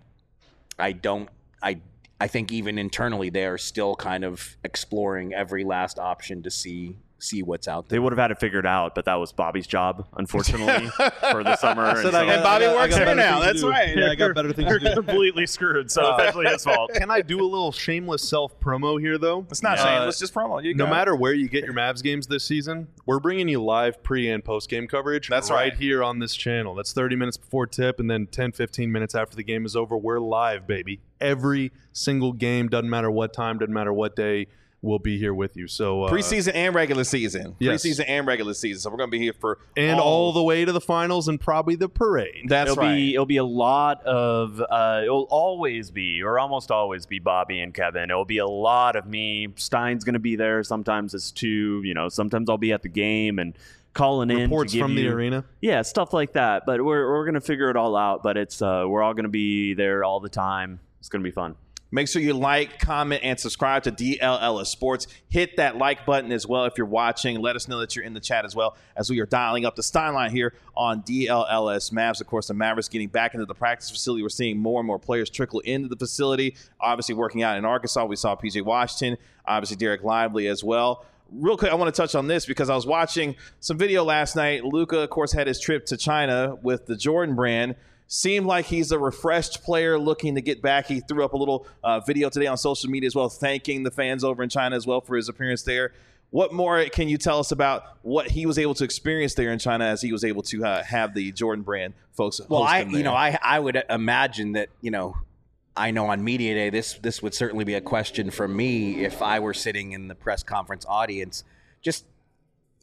think even internally they are still kind of exploring every last option to see what's out there. They would have had it figured out, but that was Bobby's job, unfortunately, for the summer. And Bobby works here now. That's right. Yeah, I got better things to do. Completely screwed, so eventually his fault. Can I do a little shameless self-promo here, though? It's not shameless, just promo. No matter where you get your Mavs games this season, we're bringing you live pre- and post-game coverage. That's right here on this channel. That's 30 minutes before tip, and then 10, 15 minutes after the game is over. We're live, baby. Every single game, doesn't matter what time, doesn't matter what day. We'll be here with you. So preseason and regular season. Yes. Preseason and regular season. So we're going to be here for all the way to the finals and probably the parade. It'll be a lot of it'll always be, or almost always be, Bobby and Kevin. It'll be a lot of me. Stein's going to be there. Sometimes it's two. Sometimes I'll be at the game and calling in reports to give from the arena. Yeah, stuff like that. But we're going to figure it all out. But it's we're all going to be there all the time. It's going to be fun. Make sure you like, comment, and subscribe to DLLS Sports. Hit that like button as well if you're watching. Let us know that you're in the chat as well as we are dialing up the Stein line here on DLLS Mavs. Of course, the Mavericks getting back into the practice facility. We're seeing more and more players trickle into the facility. Obviously, working out in Arkansas, we saw P.J. Washington, obviously Derek Lively as well. Real quick, I want to touch on this because I was watching some video last night. Luka, of course, had his trip to China with the Jordan brand. Seemed like he's a refreshed player looking to get back. He threw up a little video today on social media as well, thanking the fans over in China as well for his appearance there. What more can you tell us about what he was able to experience there in China as he was able to have the Jordan brand folks host him there? I would imagine that, I know on Media Day, this would certainly be a question from me if I were sitting in the press conference audience. Just,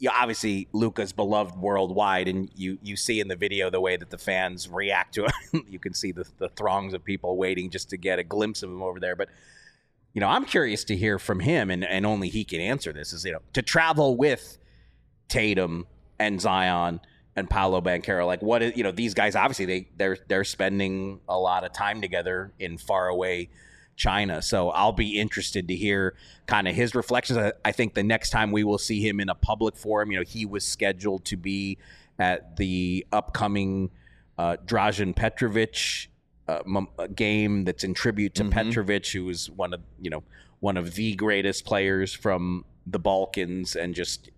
obviously Luka's beloved worldwide, and you see in the video the way that the fans react to him. You can see the throngs of people waiting just to get a glimpse of him over there. But I'm curious to hear from him, and only he can answer this. Is to travel with Tatum and Zion and Paolo Banchero, like what is these guys? Obviously they're spending a lot of time together in faraway China. So I'll be interested to hear kind of his reflections. I think the next time we will see him in a public forum, he was scheduled to be at the upcoming Dražen Petrovic game that's in tribute to Petrovic, who was one of the greatest players from the Balkans, and just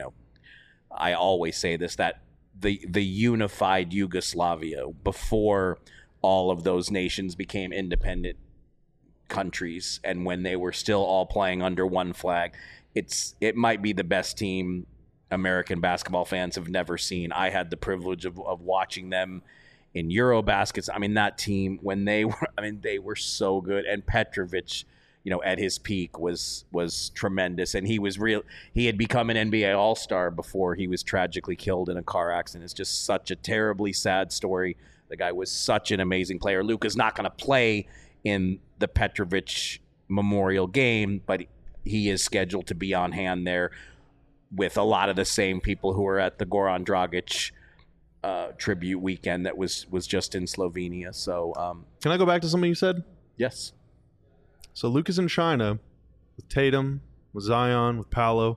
I always say this, that the unified Yugoslavia before all of those nations became independent countries, and when they were still all playing under one flag, it might be the best team American basketball fans have never seen. I had the privilege of watching them in Eurobaskets. I mean, that team, when they were so good, and Petrovic, at his peak was tremendous, and he had become an NBA All-Star before he was tragically killed in a car accident. It's just such a terribly sad story. The guy was such an amazing player. Luka's not going to play in the Petrovic Memorial game, but he is scheduled to be on hand there with a lot of the same people who were at the Goran Dragic tribute weekend that was just in Slovenia. So can I go back to something you said? Yes. So Luka's in China with Tatum, with Zion, with Paolo.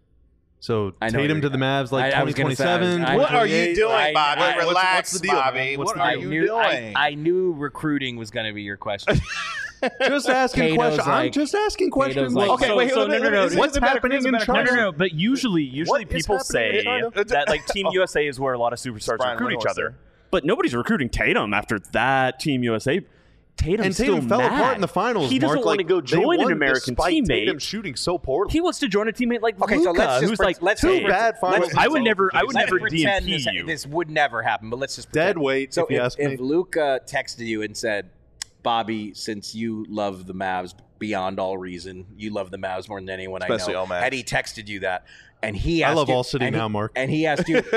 So Tatum to the Mavs, like 2027. What are you doing, Bobby? Relax, what's the deal, Bobby. What's what the are deal? you doing? I knew recruiting was going to be your question. Just asking questions. I'm like- just asking questions. like- Okay, wait, so no. What's happening in China? No. But usually What is people say happening in China? that like Team USA is where a lot of superstars Brian recruit each Windhorst other. there. But nobody's recruiting Tatum after that Team USA. Tatum And still Tatum fell mad. apart in the finals. He doesn't Mark. want to go They join an won American despite Tatum teammate. shooting so poorly. He wants to join a teammate like Okay, so Luka, let's just who's pre- like let's two say- bad finals. I would never Let's pretend DMP you. this would never happen, but let's just Dead pretend. weight, So if you ask me. if Luka texted you and said, Bobby, since you love the Mavs beyond all reason, you love the Mavs more than anyone Especially I know. all Mavs. Had he texted you that, and he I asked love you, All City and now, he- Mark. And he asked you,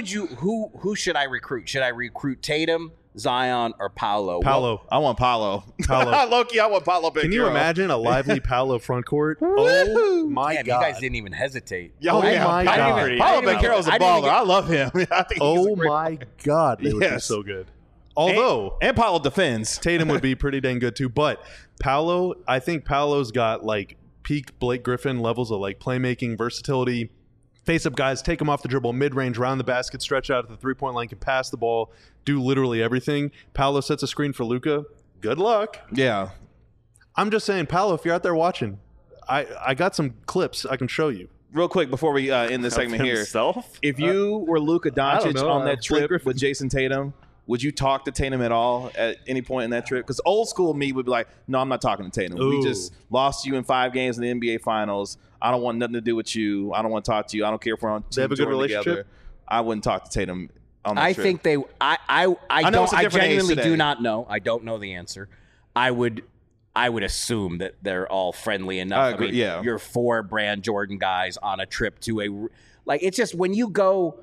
who should I recruit? Should I recruit Tatum, Zion, or Paolo? Paolo. I want Paolo. Paolo. Loki, I want Paolo. Can you imagine a lively Paolo front court? Woohoo. Oh my Damn, God! you guys didn't even hesitate. Oh, yeah. my I God. didn't even- Paolo Banchero's a I didn't even baller. I love him. I think he's a Oh great my God! They would be Yes. so good. Although and Paolo defends. Tatum would be pretty dang good too, but Paolo, I think Paolo's got like peak Blake Griffin levels of like playmaking, versatility. Face up guys, take him off the dribble, mid range, round the basket, stretch out at the 3-point line, can pass the ball, do literally everything. Paolo sets a screen for Luka. Good luck. Yeah. I'm just saying, Paolo, if you're out there watching, I got some clips I can show you. Real quick before we end this segment here. Himself? If you were Luka Doncic know. on that Blake trip Griffin. with Jason Tatum, would you talk to Tatum at all at any point in that trip? Because old school me would be like, no, I'm not talking to Tatum. We Ooh. just lost you in 5 games in the NBA Finals. I don't want nothing to do with you. I don't want to talk to you. I don't care if we're on They have a good Team Jordan relationship? together. I wouldn't talk to Tatum on that I trip. think they. I know don't. it's a I different age genuinely today. do not know. I don't know the answer. I would assume that they're all friendly enough. I agree, yeah. You're 4 brand Jordan guys on a trip to a like. It's just when you go.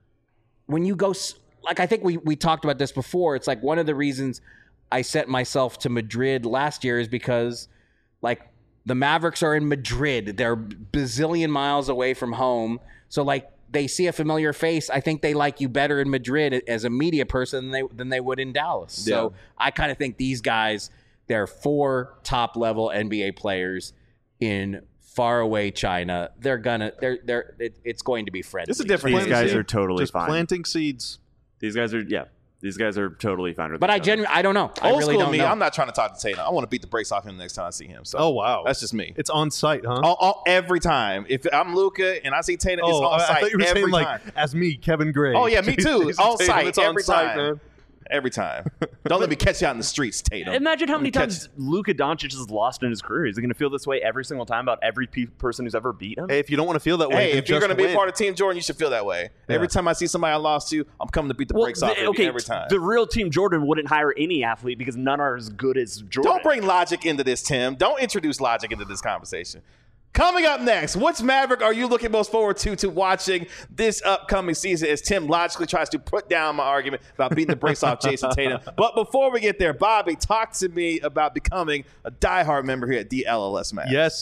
Like I think we talked about this before. It's like one of the reasons I sent myself to Madrid last year is because like the Mavericks are in Madrid. They're bazillion miles away from home. So like they see a familiar face. I think they like you better in Madrid as a media person than they would in Dallas. So I kind of think these guys, they're 4 top level NBA players in faraway China. It's going to be friendly. It's a different These age. guys are totally Just fine. planting seeds. These guys are totally fine with But each I other. genuinely, I don't know. I Old really school don't me, know. I'm not trying to talk to Tatum. I want to beat the brakes off him next time I see him. So Oh wow, that's just me. It's on site, huh? Every time. If I'm Luka and I see Tatum, it's Oh, on I site thought you were every saying like time. as me, Kevin Gray. Oh, yeah, me too. Jason On Tatum, site, it's on every site, time. man. Every time. Don't let me catch you out in the streets, Tatum. Imagine how many Let me catch- times Luka Doncic has lost in his career. Is he going to feel this way every single time about every person who's ever beat him? Hey, if you don't want to feel that way, Hey, then if you're just going to be win. a part of Team Jordan, you should feel that way. Yeah. Every time I see somebody I lost to, I'm coming to beat the brakes off every time. The real Team Jordan wouldn't hire any athlete because none are as good as Jordan. Don't bring logic into this, Tim. Don't introduce logic into this conversation. Coming up next, which Maverick are you looking most forward to watching this upcoming season as Tim logically tries to put down my argument about beating the brakes off Jason Tatum. But before we get there, Bobby, talk to me about becoming a diehard member here at DLLS Mavs. Yes,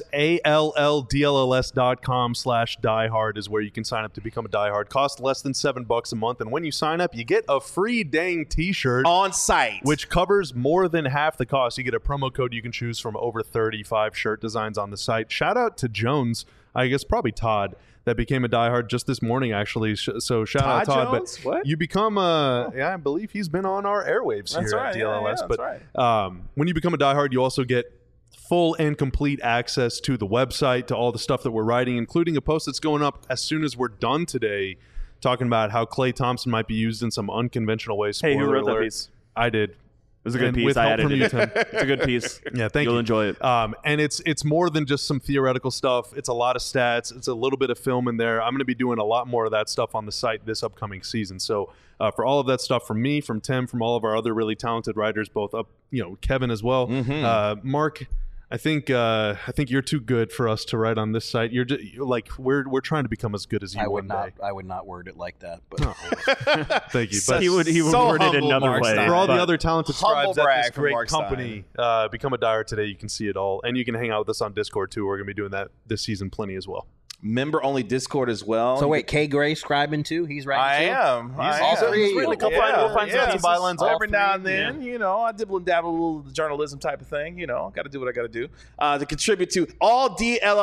ALLDLLS.com/diehard is where you can sign up to become a diehard. Costs less than $7 a month. And when you sign up, you get a free dang t-shirt on site, which covers more than half the cost. You get a promo code you can choose from over 35 shirt designs on the site. Shout out to Jones, I guess probably Todd, that became a diehard just this morning, actually. So shout out Todd. Jones? But what? you become I believe he's been on our airwaves here at DLLS. Yeah, but right. When you become a diehard, you also get full and complete access to the website, to all the stuff that we're writing, including a post that's going up as soon as we're done today, talking about how Klay Thompson might be used in some unconventional ways. Hey, who wrote alert. that piece? I did. It was a good piece. With I help edited from you, Tim. It's a good piece. Yeah, thank you. You'll enjoy it. And it's more than just some theoretical stuff. It's a lot of stats. It's a little bit of film in there. I'm going to be doing a lot more of that stuff on the site this upcoming season. So for all of that stuff from me, from Tim, from all of our other really talented writers, both Kevin as well, Mark. I think you're too good for us to write on this site. You're just, we're trying to become as good as you. I would not word it like that. But thank you. But he would word it another Mark way. Stein. For all the other talented scribes at this great Mark company, become a diehard today. You can see it all, and you can hang out with us on Discord too. We're going to be doing that this season plenty as well. Member-only Discord as well. So wait, K. Gray scribing too? He's writing too? I am. He's written a couple. We'll find some bylines every now and then. I dibble and dabble a little of the journalism type of thing. Got to do what I got to do to contribute to all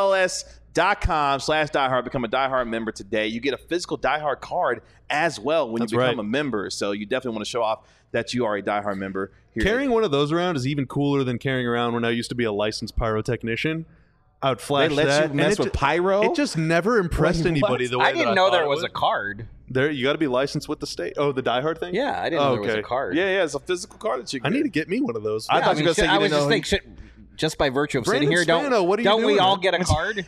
DLLS.com/diehard. Become a diehard member today. You get a physical diehard card as well when you become a member. So you definitely want to show off that you are a diehard member. Carrying one of those around is even cooler than carrying around when I used to be a licensed pyrotechnician. I would flash they let that. you mess with pyro? It just never impressed anybody the way I didn't know there was a card. You got to be licensed with the state. Oh, the diehard thing? Yeah, I didn't know there was a card. Yeah, it's a physical card that you get. I need to get me one of those. I thought you were going to say you didn't know. Just by virtue of Brandon sitting here, Spano, what are you don't we doing? all get a card?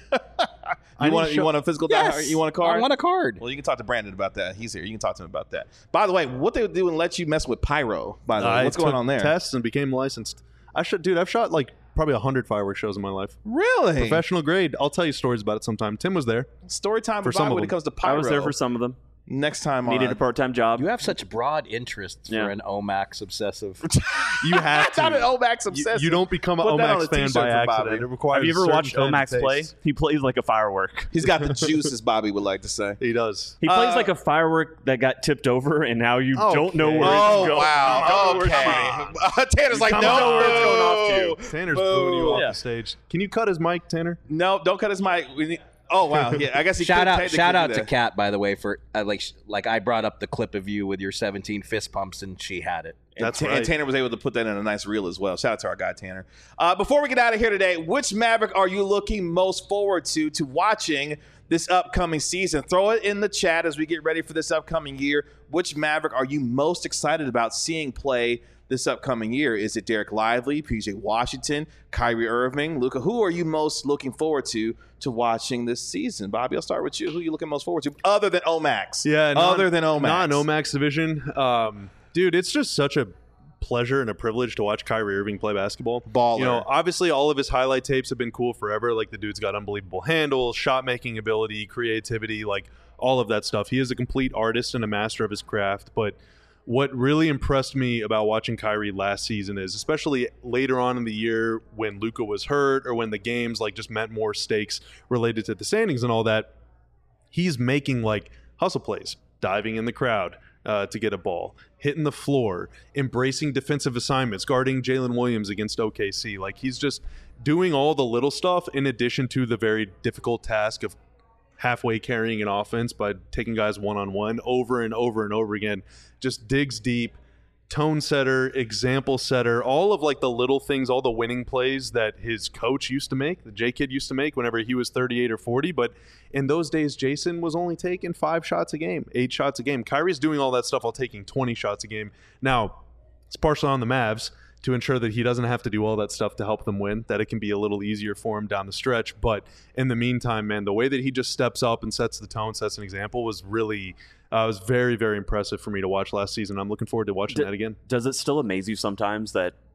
You want a physical diehard? You want a card? I want a card. Well, you can talk to Brandon about that. He's here. You can talk to him about that. By the way, what they would do and let you mess with pyro, by the way. What's going on there? Tests and became licensed. I've shot probably 100 fireworks shows in my life. Really? Professional grade. I'll tell you stories about it sometime. Tim was there. Story time for with Bobby when it comes to pyro. I was there for some of them. Next time Needed a part-time job. You have such broad interests for an Omax obsessive. You have to. Not an Omax obsessive. You don't become an Omax fan by accident. It requires have you ever watched Omax play? taste. He plays like a firework. He's got the juice, as Bobby would like to say. He does. He plays like a firework that got tipped over, and now you don't know where it's going. Wow. Okay. Tanner's like, no. Know where it's going off to. Tanner's booing you off the stage. Can you cut his mic, Tanner? No, don't cut his mic. Oh wow! Yeah, I guess he shout out to Kat, by the way, for like I brought up the clip of you with your 17 fist pumps and she had it. And Tanner was able to put that in a nice reel as well. Shout out to our guy Tanner. Before we get out of here today, which Maverick are you looking most forward to watching this upcoming season? Throw it in the chat as we get ready for this upcoming year. Which Maverick are you most excited about seeing play this upcoming year? Is it Derek Lively, PJ Washington, Kyrie Irving, Luka? Who are you most looking forward to watching this season? Bobby, I'll start with you. Who are you looking most forward to other than Omax? Yeah, other than Omax. Non-Omax division. Dude, it's just such a pleasure and a privilege to watch Kyrie Irving play basketball. Baller. Obviously all of his highlight tapes have been cool forever. Like the dude's got unbelievable handles, shot-making ability, creativity, like all of that stuff. He is a complete artist and a master of his craft, but what really impressed me about watching Kyrie last season is, especially later on in the year when Luka was hurt or when the games just meant more stakes related to the standings and all that, he's making hustle plays, diving in the crowd to get a ball, hitting the floor, embracing defensive assignments, guarding Jalen Williams against OKC. He's just doing all the little stuff in addition to the very difficult task of halfway carrying an offense by taking guys one-on-one over and over and over again. Just digs deep, tone setter, example setter, all of the little things, all the winning plays that his coach used to make, the J-Kid used to make whenever he was 38 or 40. But in those days, Jason was only taking 5 shots a game, 8 shots a game. Kyrie's doing all that stuff while taking 20 shots a game. Now, it's partially on the Mavs to ensure that he doesn't have to do all that stuff to help them win, that it can be a little easier for him down the stretch. But in the meantime, man, the way that he just steps up and sets the tone, sets an example was really was very, very impressive for me to watch last season. I'm looking forward to watching that again. Does it still amaze you sometimes that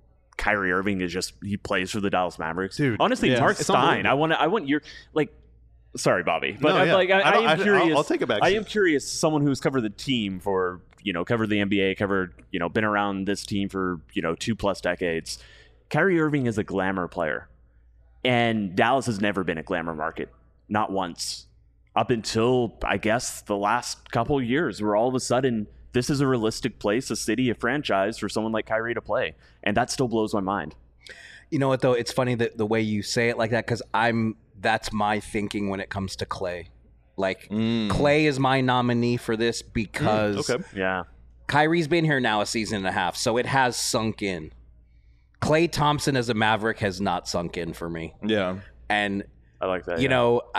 Kyrie Irving he plays for the Dallas Mavericks. Dude, honestly, Mark Stein. I want your sorry, Bobby, but I am curious. I'll take it back. I am curious. Someone who's covered the team for covered the NBA, been around this team for 2+ decades. Kyrie Irving is a glamour player, and Dallas has never been a glamour market, not once, up until I guess the last couple of years, where all of a sudden this is a realistic place, a city, a franchise for someone like Kyrie to play, and that still blows my mind. You know what, though? It's funny that the way you say it like that, because that's my thinking when it comes to Klay. Klay is my nominee for this because Kyrie's been here now a season and a half, so it has sunk in. Klay Thompson as a Maverick has not sunk in for me. Yeah. And I like that.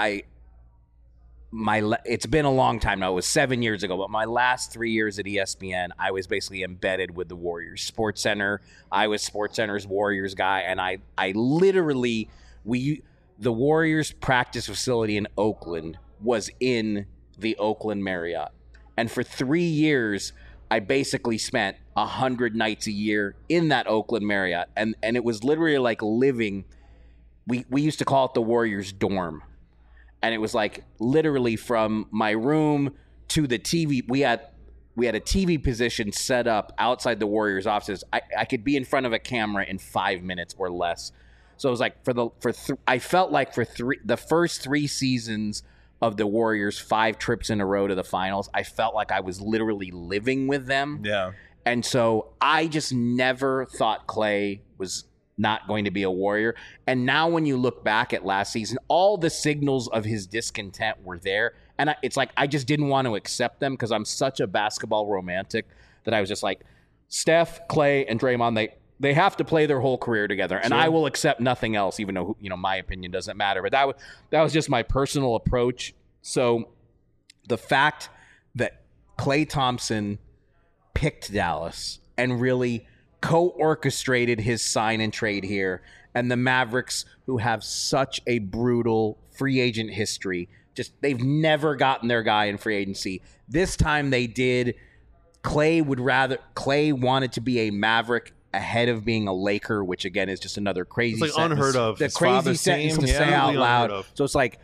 It's been a long time now. It was 7 years ago, but my last 3 years at ESPN, I was basically embedded with the Warriors. SportsCenter, I was SportsCenter's Warriors guy, and I literally the Warriors practice facility in Oakland was in the Oakland Marriott. And for 3 years, I basically spent 100 nights a year in that Oakland Marriott. And it was literally like living, we used to call it the Warriors dorm. And it was like literally from my room to the TV. We had a TV position set up outside the Warriors offices. I could be in front of a camera in 5 minutes or less. So it was like I felt like the first 3 seasons of the Warriors, 5 trips in a row to the finals, I felt like I was literally living with them. Yeah. And so I just never thought Klay was not going to be a Warrior. And now when you look back at last season, all the signals of his discontent were there. And it's like I just didn't want to accept them because I'm such a basketball romantic that I was just like, Steph, Klay, and Draymond, they have to play their whole career together, and I will accept nothing else, even though my opinion doesn't matter. But that was just my personal approach. So the fact that Klay Thompson picked Dallas and really co-orchestrated his sign and trade here, and the Mavericks, who have such a brutal free agent history, they've never gotten their guy in free agency. This time they did. Klay wanted to be a Maverick ahead of being a Laker, which again is just another crazy it's like unheard of. The crazy sentence to say out loud. So it's like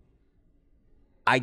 I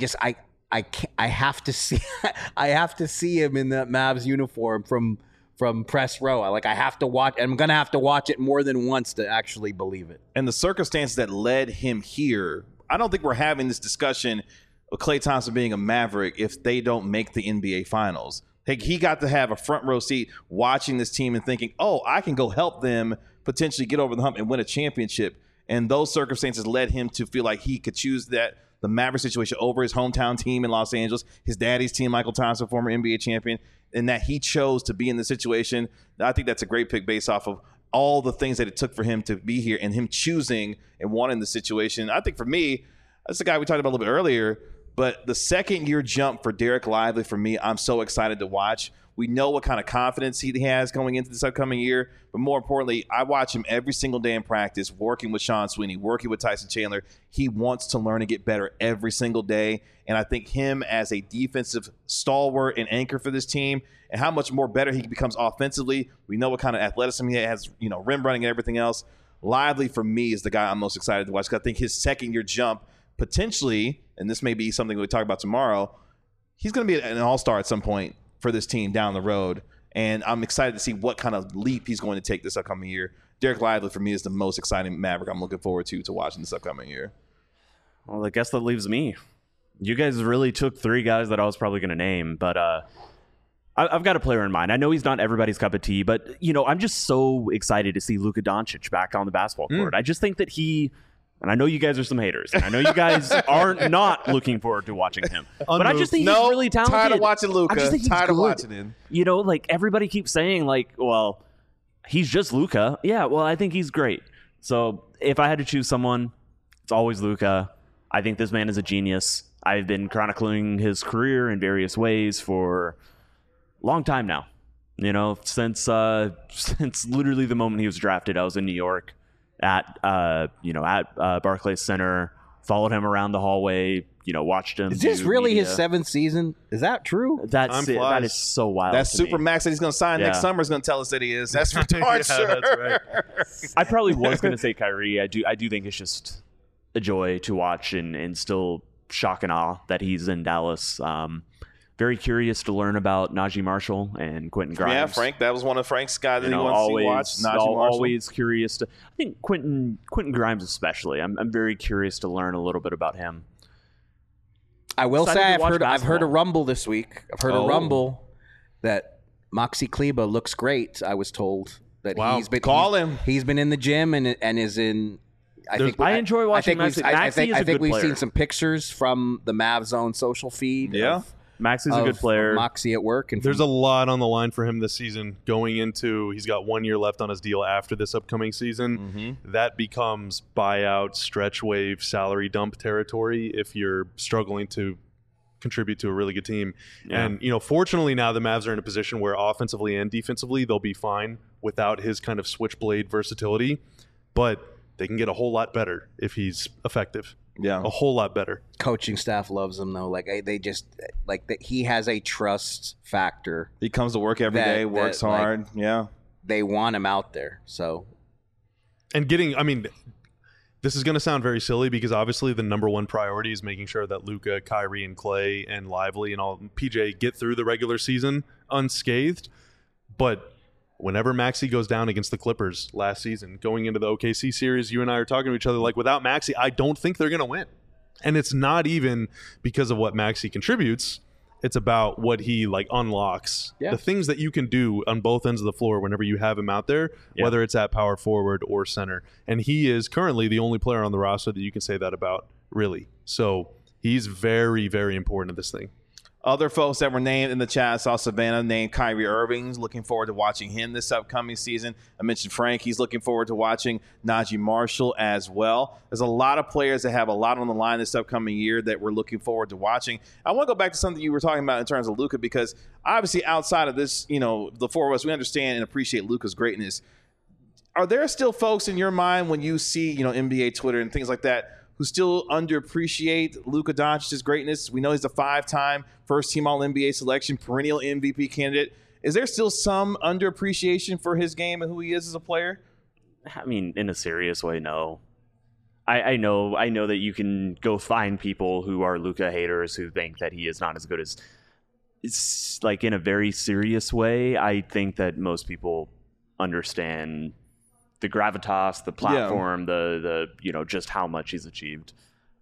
have to see I have to see him in that Mavs uniform from press row. I have to watch. I'm gonna have to watch it more than once to actually believe it. And the circumstances that led him here, I don't think we're having this discussion of Klay Thompson being a Maverick if they don't make the NBA Finals. He got to have a front row seat watching this team and thinking, oh, I can go help them potentially get over the hump and win a championship. And those circumstances led him to feel like he could choose the Maverick situation over his hometown team in Los Angeles, his daddy's team, Michael Thompson, former NBA champion, and that he chose to be in the situation. I think that's a great pick based off of all the things that it took for him to be here and him choosing and wanting the situation. I think for me, that's the guy we talked about a little bit earlier. But the second-year jump for Derek Lively, for me, I'm so excited to watch. We know what kind of confidence he has going into this upcoming year. But more importantly, I watch him every single day in practice, working with Sean Sweeney, working with Tyson Chandler. He wants to learn and get better every single day. And I think him as a defensive stalwart and anchor for this team and how much more better he becomes offensively. We know what kind of athleticism he has, rim running and everything else. Lively, for me, is the guy I'm most excited to watch because I think his second-year jump potentially, and this may be something we talk about tomorrow, he's going to be an all-star at some point for this team down the road. And I'm excited to see what kind of leap he's going to take this upcoming year. Derek Lively, for me, is the most exciting Maverick I'm looking forward to watching this upcoming year. Well, I guess that leaves me. You guys really took 3 guys that I was probably going to name, but I've got a player in mind. I know he's not everybody's cup of tea, but, I'm just so excited to see Luka Doncic back on the basketball court. I just think that and I know you guys are some haters, and I know you guys are not looking forward to watching him. But I just think he's really talented. Tired of watching Luka. I just think he's tired good. of watching him. Everybody keeps saying, well, he's just Luka. Yeah, well, I think he's great. So if I had to choose someone, it's always Luka. I think this man is a genius. I've been chronicling his career in various ways for a long time now. Since literally the moment he was drafted, I was in New York at Barclays Center followed him around the hallway, watched him. Is this really media. his 7th season? Is that true? That is so wild. That to Super me. Max that he's going to sign next summer is going to tell us that he is. That's for darn sure. That's right. I probably was going to say Kyrie. I do think it's just a joy to watch and still shock and awe that he's in Dallas. Very curious to learn about Najee Marshall and Quentin Grimes. Yeah, Frank. That was one of Frank's guys that he wants to watch. Najee Marshall. Always curious to. I think Quentin Grimes especially. I'm very curious to learn a little bit about him. I will Excited say to I've watch heard a basketball. rumble this week. I've heard a rumble that Moxie Kleba looks great. I was told that Wow. he's been in the gym and is in. I enjoy watching I think Maxey. Maxey is a good we've player. seen some pictures from the Mavs Zone social feed. Yeah. Maxey's a good of player. Moxie at work, and There's a lot on the line for him this season. Going into, he's got 1 year left on his deal after this upcoming season. That becomes buyout, stretch wave, salary dump territory if you're struggling to contribute to a really good team. Yeah. And, fortunately now the Mavs are in a position where offensively and defensively they'll be fine without his kind of switchblade versatility. But they can get a whole lot better if he's effective. Yeah. A whole lot better. coaching staff loves him though. Like they just like that. He has a trust factor. He comes to work every That- day, works that, like- hard. Yeah. They want him out there. So And this is going to sound very silly because obviously the number one priority is making sure that Luka, Kyrie, and Clay and Lively and all PJ get through the regular season unscathed. But whenever Maxey goes down against the Clippers last season, going into the OKC series, you and I are talking to each other like, without Maxey, I don't think they're going to win. And it's not even because of what Maxey contributes. It's about what he unlocks. Yeah. The things that you can do on both ends of the floor whenever you have him out there, whether it's at power forward or center. And he is currently the only player on the roster that you can say that about, really. So he's very, very important to this thing. Other folks that were named in the chat, I saw Savannah named Kyrie Irving. Looking forward to watching him this upcoming season. I mentioned Frank. He's looking forward to watching Najee Marshall as well. There's a lot of players that have a lot on the line this upcoming year that we're looking forward to watching. I want to go back to something you were talking about in terms of Luka, because obviously outside of this, the four of us, we understand and appreciate Luka's greatness. Are there still folks in your mind when you see, NBA Twitter and things like that, who still underappreciate Luka Doncic's greatness? We know he's a 5-time first-team All-NBA selection, perennial MVP candidate. Is there still some underappreciation for his game and who he is as a player? I mean, in a serious way, no. I know that you can go find people who are Luka haters who think that he is not as good as. It's like in a very serious way. I think that most people understand the gravitas, the platform, the just how much he's achieved.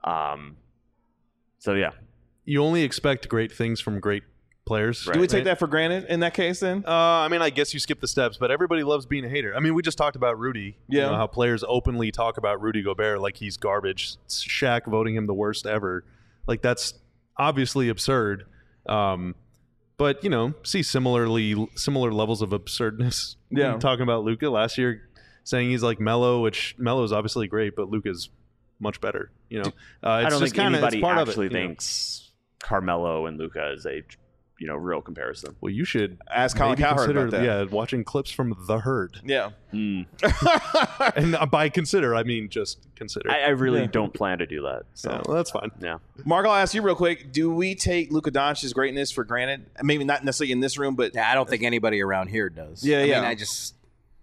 So yeah, You only expect great things from great players. Do we take that for granted in that case then? I guess you skip the steps, but everybody loves being a hater. We just talked about Rudy. Yeah. How players openly talk about Rudy Gobert like he's garbage. Shaq voting him the worst ever. That's obviously absurd. But see similar levels of absurdness. Yeah. Talking about Luka last year, saying he's like Melo, which Melo's obviously great, but Luka's much better. It's I don't just think anybody it's part actually of it, thinks Carmelo and Luka is a real comparison. Well, you should Ask Colin maybe Cowherd consider, about that. yeah, watching clips from The Herd. Yeah. And by consider, I mean just consider. I really don't plan to do that. So Yeah, well, that's fine. yeah. Mark, I'll ask you real quick. Do we take Luka Doncic's greatness for granted? Maybe not necessarily in this room, but I don't think anybody around here does. Yeah, I yeah. mean, I just,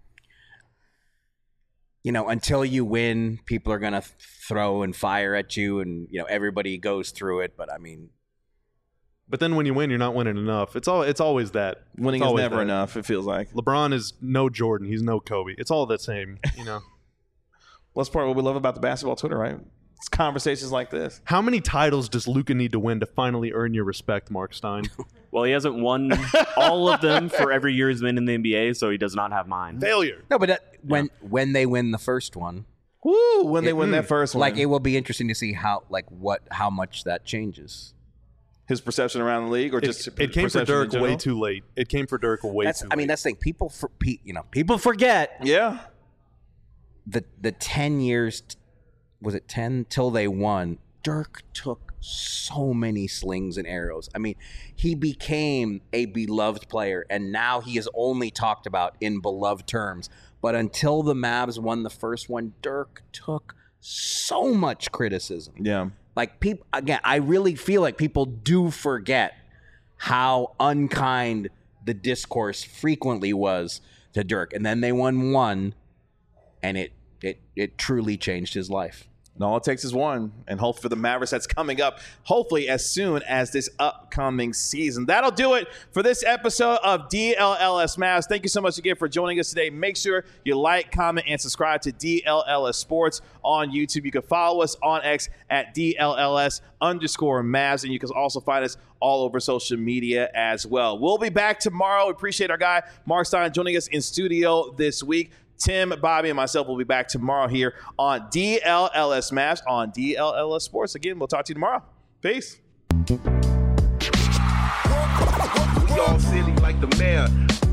until you win, people are gonna throw and fire at you, and everybody goes through it. But But then when you win, you're not winning enough. It's always that. winning It's is always never that. enough, it feels like. LeBron is no Jordan. He's no Kobe. It's all the same. Well, that's part of what we love about the basketball Twitter, right? It's conversations like this. How many titles does Luka need to win to finally earn your respect, Mark Stein? Well, he hasn't won all of them for every year he's been in the NBA, so he does not have mine. Failure. no, but when they win the first one, Woo! When they win that first one. it will be interesting to see how much that changes. His perception around the league, or just It came for perception in Dirk way general? too late. It came for Dirk way too late. That's the thing. People forget Yeah. the 10 years. Was it 10 till they won? Dirk took so many slings and arrows. He became a beloved player, and now he is only talked about in beloved terms. But until the Mavs won the first one, Dirk took so much criticism. Yeah. Like, people, again, I really feel like people do forget how unkind the discourse frequently was to Dirk. And then they won one, and it truly changed his life. And all it takes is one, and hope for the Mavericks that's coming up, hopefully as soon as this upcoming season. That'll do it for this episode of DLLS Mavs. Thank you so much again for joining us today. Make sure you like, comment, and subscribe to DLLS Sports on YouTube. You can follow us on X at DLLS_Mavs, and you can also find us all over social media as well. We'll be back tomorrow. We appreciate our guy, Mark Stein, joining us in studio this week. Tim, Bobby, and myself will be back tomorrow here on DLLS Mavs on DLLS Sports. Again, we'll talk to you tomorrow. Peace. We all silly like the mayor.